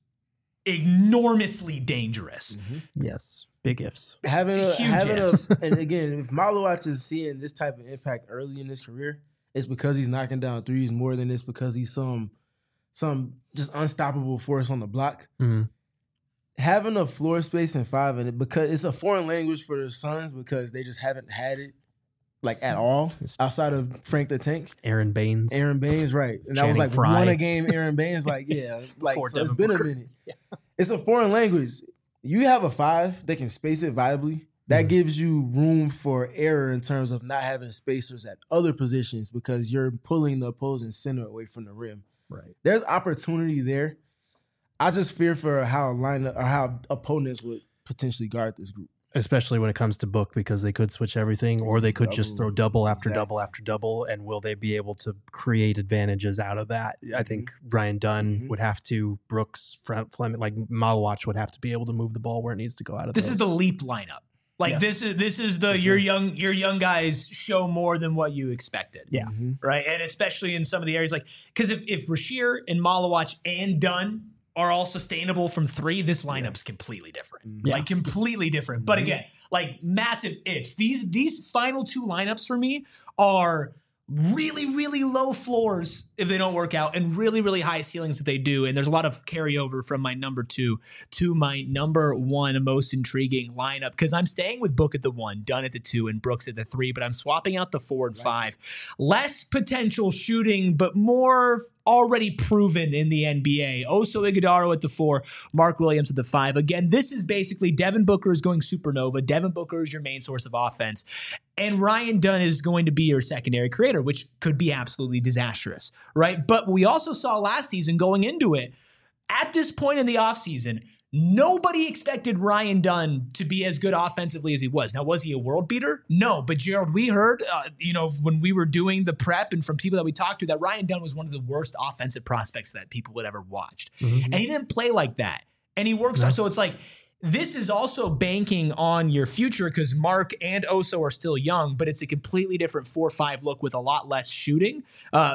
enormously dangerous. Mm-hmm. Yes. Big ifs. Having a, Huge having ifs. A, and again, if Malawach is seeing this type of impact early in his career, it's because he's knocking down threes more than it's because he's some some just unstoppable force on the block. Mm-hmm. Having a floor space in five, and it because it's a foreign language for the Suns because they just haven't had it like at all outside of Frank the Tank, Aaron Baines, Aaron Baines, right? And that was like Fry. one a game. Aaron Baines, like yeah, like so it's been a minute. Yeah. It's a foreign language. You have a five that can space it viably. That mm-hmm. gives you room for error in terms of not having spacers at other positions because you're pulling the opposing center away from the rim. Right. There's opportunity there. I just fear for how lineup or how opponents would potentially guard this group. Especially when it comes to Book, because they could switch everything or they could double, just throw double after exactly. double after double. And will they be able to create advantages out of that? I think Ryan Dunn mm-hmm. would have to, Brooks, Fleming, like Malawach would have to be able to move the ball where it needs to go out of This those. is the leap lineup. Like yes. this is this is the For your sure. young your young guys show more than what you expected. Yeah. Mm-hmm. Right. And especially in some of the areas like because if if Rasheer and Malawach and Dunn are all sustainable from three, this lineup's yeah. completely different. Yeah. Like completely different. Mm-hmm. But again, like massive ifs. These these final two lineups for me are really, really low floors if they don't work out and really, really high ceilings if they do. And there's a lot of carryover from my number two to my number one most intriguing lineup because I'm staying with Book at the one, Dunn at the two, and Brooks at the three, but I'm swapping out the four and five. Less potential shooting, but more already proven in the N B A. Oso Iguodala at the four, Mark Williams at the five. Again, this is basically Devin Booker is going supernova. Devin Booker is your main source of offense. And Ryan Dunn is going to be your secondary creator, which could be absolutely disastrous, right? But we also saw last season going into it, at this point in the offseason, nobody expected Ryan Dunn to be as good offensively as he was. Now, was he a world beater? No, but Gerald, we heard, uh, you know, when we were doing the prep and from people that we talked to, that Ryan Dunn was one of the worst offensive prospects that people would ever watched. Mm-hmm. And he didn't play like that. And he works, no. so it's like, this is also banking on your future because Mark and Oso are still young, but it's a completely different four five look with a lot less shooting, uh,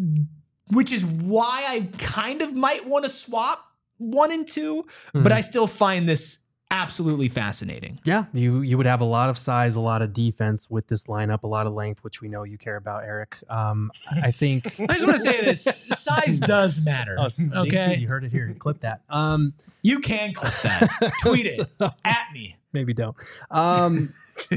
which is why I kind of might want to swap one and two, mm-hmm. but I still find this absolutely fascinating. Yeah, you you would have a lot of size, a lot of defense with this lineup, a lot of length, which we know you care about, Eric. Um, I think I just want to say this: size does matter. Oh, see, okay, you heard it here. Clip that. Um, you can clip that. Tweet it so, at me. Maybe don't. Um,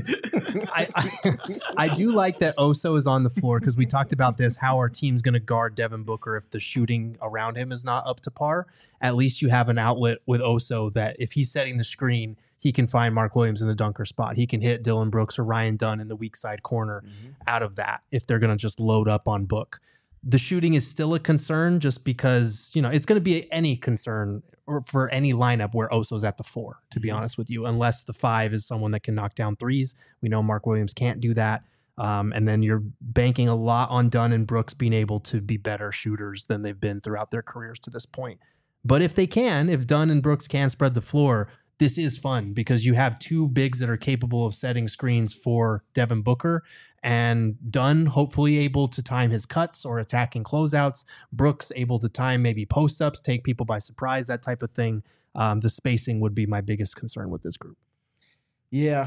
I, I I do like that Oso is on the floor because we talked about this, how our team's going to guard Devin Booker if the shooting around him is not up to par. At least you have an outlet with Oso that if he's setting the screen, he can find Mark Williams in the dunker spot. He can hit Dylan Brooks or Ryan Dunn in the weak side corner mm-hmm. out of that if they're going to just load up on Book. The shooting is still a concern just because, you know, it's going to be any concern or for any lineup where Oso's at the four, to be mm-hmm. honest with you, unless the five is someone that can knock down threes. We know Mark Williams can't do that. Um, and then you're banking a lot on Dunn and Brooks being able to be better shooters than they've been throughout their careers to this point. But if they can, if Dunn and Brooks can spread the floor, this is fun because you have two bigs that are capable of setting screens for Devin Booker, and Dunn hopefully able to time his cuts or attacking closeouts. Brooks able to time maybe post-ups, take people by surprise, that type of thing. Um, the spacing would be my biggest concern with this group. Yeah.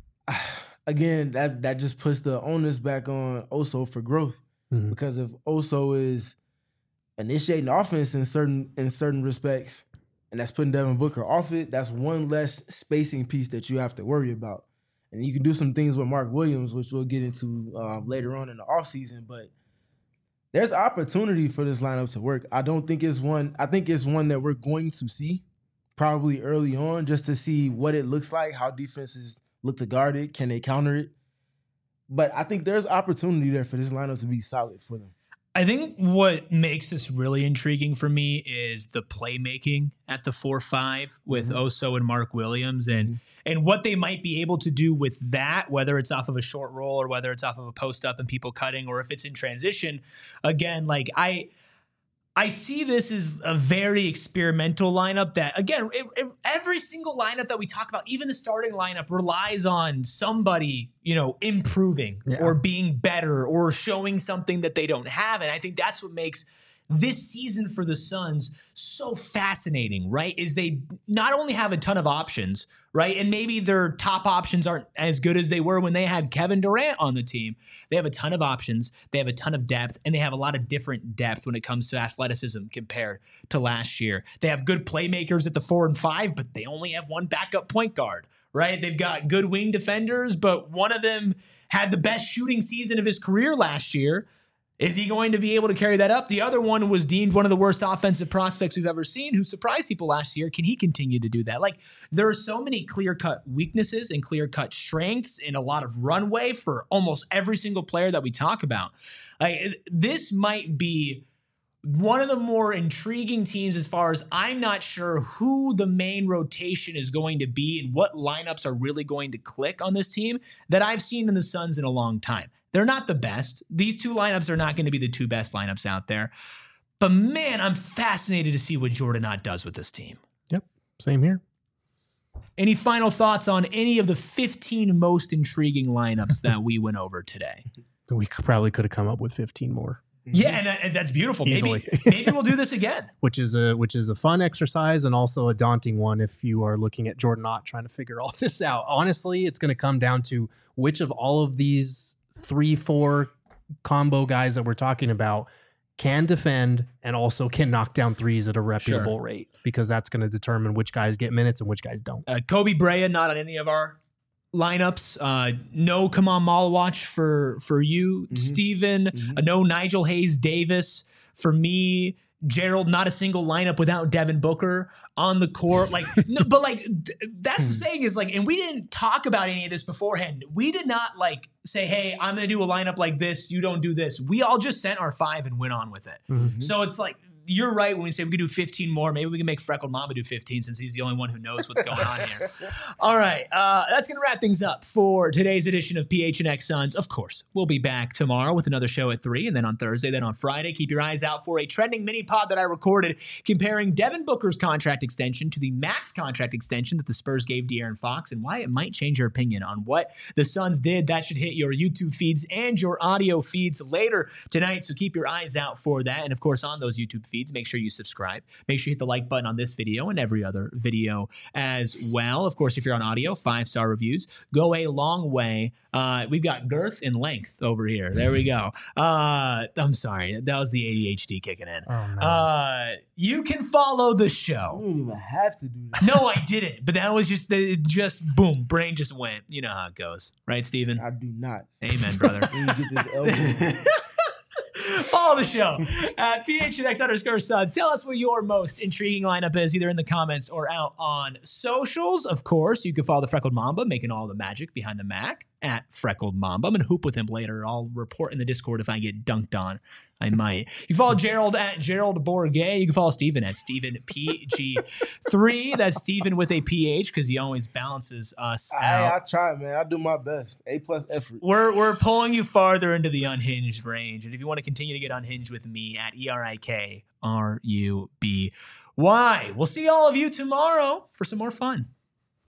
Again, that, that just puts the onus back on Oso for growth. Mm-hmm. Because if Oso is initiating offense in certain in certain respects, and that's putting Devin Booker off it, that's one less spacing piece that you have to worry about. And you can do some things with Mark Williams, which we'll get into uh, later on in the offseason. But there's opportunity for this lineup to work. I don't think it's one. I think it's one that we're going to see probably early on just to see what it looks like, how defenses look to guard it. Can they counter it? But I think there's opportunity there for this lineup to be solid for them. I think what makes this really intriguing for me is the playmaking at the four five with mm-hmm. Oso and Mark Williams and mm-hmm. and what they might be able to do with that, whether it's off of a short roll or whether it's off of a post up and people cutting or if it's in transition. Again, like I I see this as a very experimental lineup that, again, it, it, every single lineup that we talk about, even the starting lineup, relies on somebody, you know, improving yeah. or being better or showing something that they don't have. And I think that's what makes this season for the Suns so fascinating, right? Is they not only have a ton of options, right? And maybe their top options aren't as good as they were when they had Kevin Durant on the team. They have a ton of options. They have a ton of depth, and they have a lot of different depth when it comes to athleticism compared to last year. They have good playmakers at the four and five, but they only have one backup point guard, right? They've got good wing defenders, but one of them had the best shooting season of his career last year. Is he going to be able to carry that up? The other one was deemed one of the worst offensive prospects we've ever seen, who surprised people last year. Can he continue to do that? Like, there are so many clear-cut weaknesses and clear-cut strengths and a lot of runway for almost every single player that we talk about. Like, this might be one of the more intriguing teams as far as I'm not sure who the main rotation is going to be and what lineups are really going to click on this team that I've seen in the Suns in a long time. They're not the best. These two lineups are not going to be the two best lineups out there. But man, I'm fascinated to see what Jordan Ott does with this team. Yep, same here. Any final thoughts on any of the fifteen most intriguing lineups that we went over today? We could, probably could have come up with fifteen more. Yeah, and, and that's beautiful. Easily. Maybe maybe we'll do this again. Which is a which is a fun exercise and also a daunting one if you are looking at Jordan Ott trying to figure all this out. Honestly, it's going to come down to which of all of these three, four combo guys that we're talking about can defend and also can knock down threes at a reputable sure. rate, because that's going to determine which guys get minutes and which guys don't. Uh, Kobe Brea, not on any of our lineups. Uh, no Kamal Malawach for, for you, mm-hmm. Steven. Mm-hmm. Uh, no Nigel Hayes Davis for me. Gerald, not a single lineup without Devin Booker on the court. Like, no, but like, th- that's the saying is like, and we didn't talk about any of this beforehand. We did not like say, hey, I'm going to do a lineup like this. You don't do this. We all just sent our five and went on with it. Mm-hmm. So it's like, you're right when we say we could do fifteen more. Maybe we can make Freckled Mamba do fifteen since he's the only one who knows what's going on here. All right. Uh, that's going to wrap things up for today's edition of P H N X Suns. Of course, we'll be back tomorrow with another show at three, and then on Thursday, then on Friday. Keep your eyes out for a trending mini pod that I recorded comparing Devin Booker's contract extension to the max contract extension that the Spurs gave De'Aaron Fox and why it might change your opinion on what the Suns did. That should hit your YouTube feeds and your audio feeds later tonight, so keep your eyes out for that. And of course, on those YouTube feeds, make sure you subscribe. Make sure you hit the like button on this video and every other video as well. Of course, if you're on audio, five-star reviews go a long way. Uh, we've got girth and length over here. There we go. Uh, I'm sorry. That was the A D H D kicking in. Oh, no. Uh, you can follow the You show. don't even have to do that. No, I didn't. But that was just, the just boom, brain just went. You know how it goes. Right, Steven? I do not. Amen, brother. When you get this elbow. Follow the show at P H N X underscore Suns. Tell us what your most intriguing lineup is, either in the comments or out on socials. Of course, you can follow the Freckled Mamba, making all the magic behind the Mac, at Freckled Mamba. I'm going to hoop with him later. I'll report in the Discord if I get dunked on. I might. You can follow Gerald at Gerald Bourget. You can follow Steven at Steven P G three. That's Steven with a P H because he always balances us I, I out. try, man. I do my best. A plus effort. We're we're pulling you farther into the unhinged range. And if you want to continue to get unhinged with me at E R I K R U B Y, we'll see all of you tomorrow for some more fun.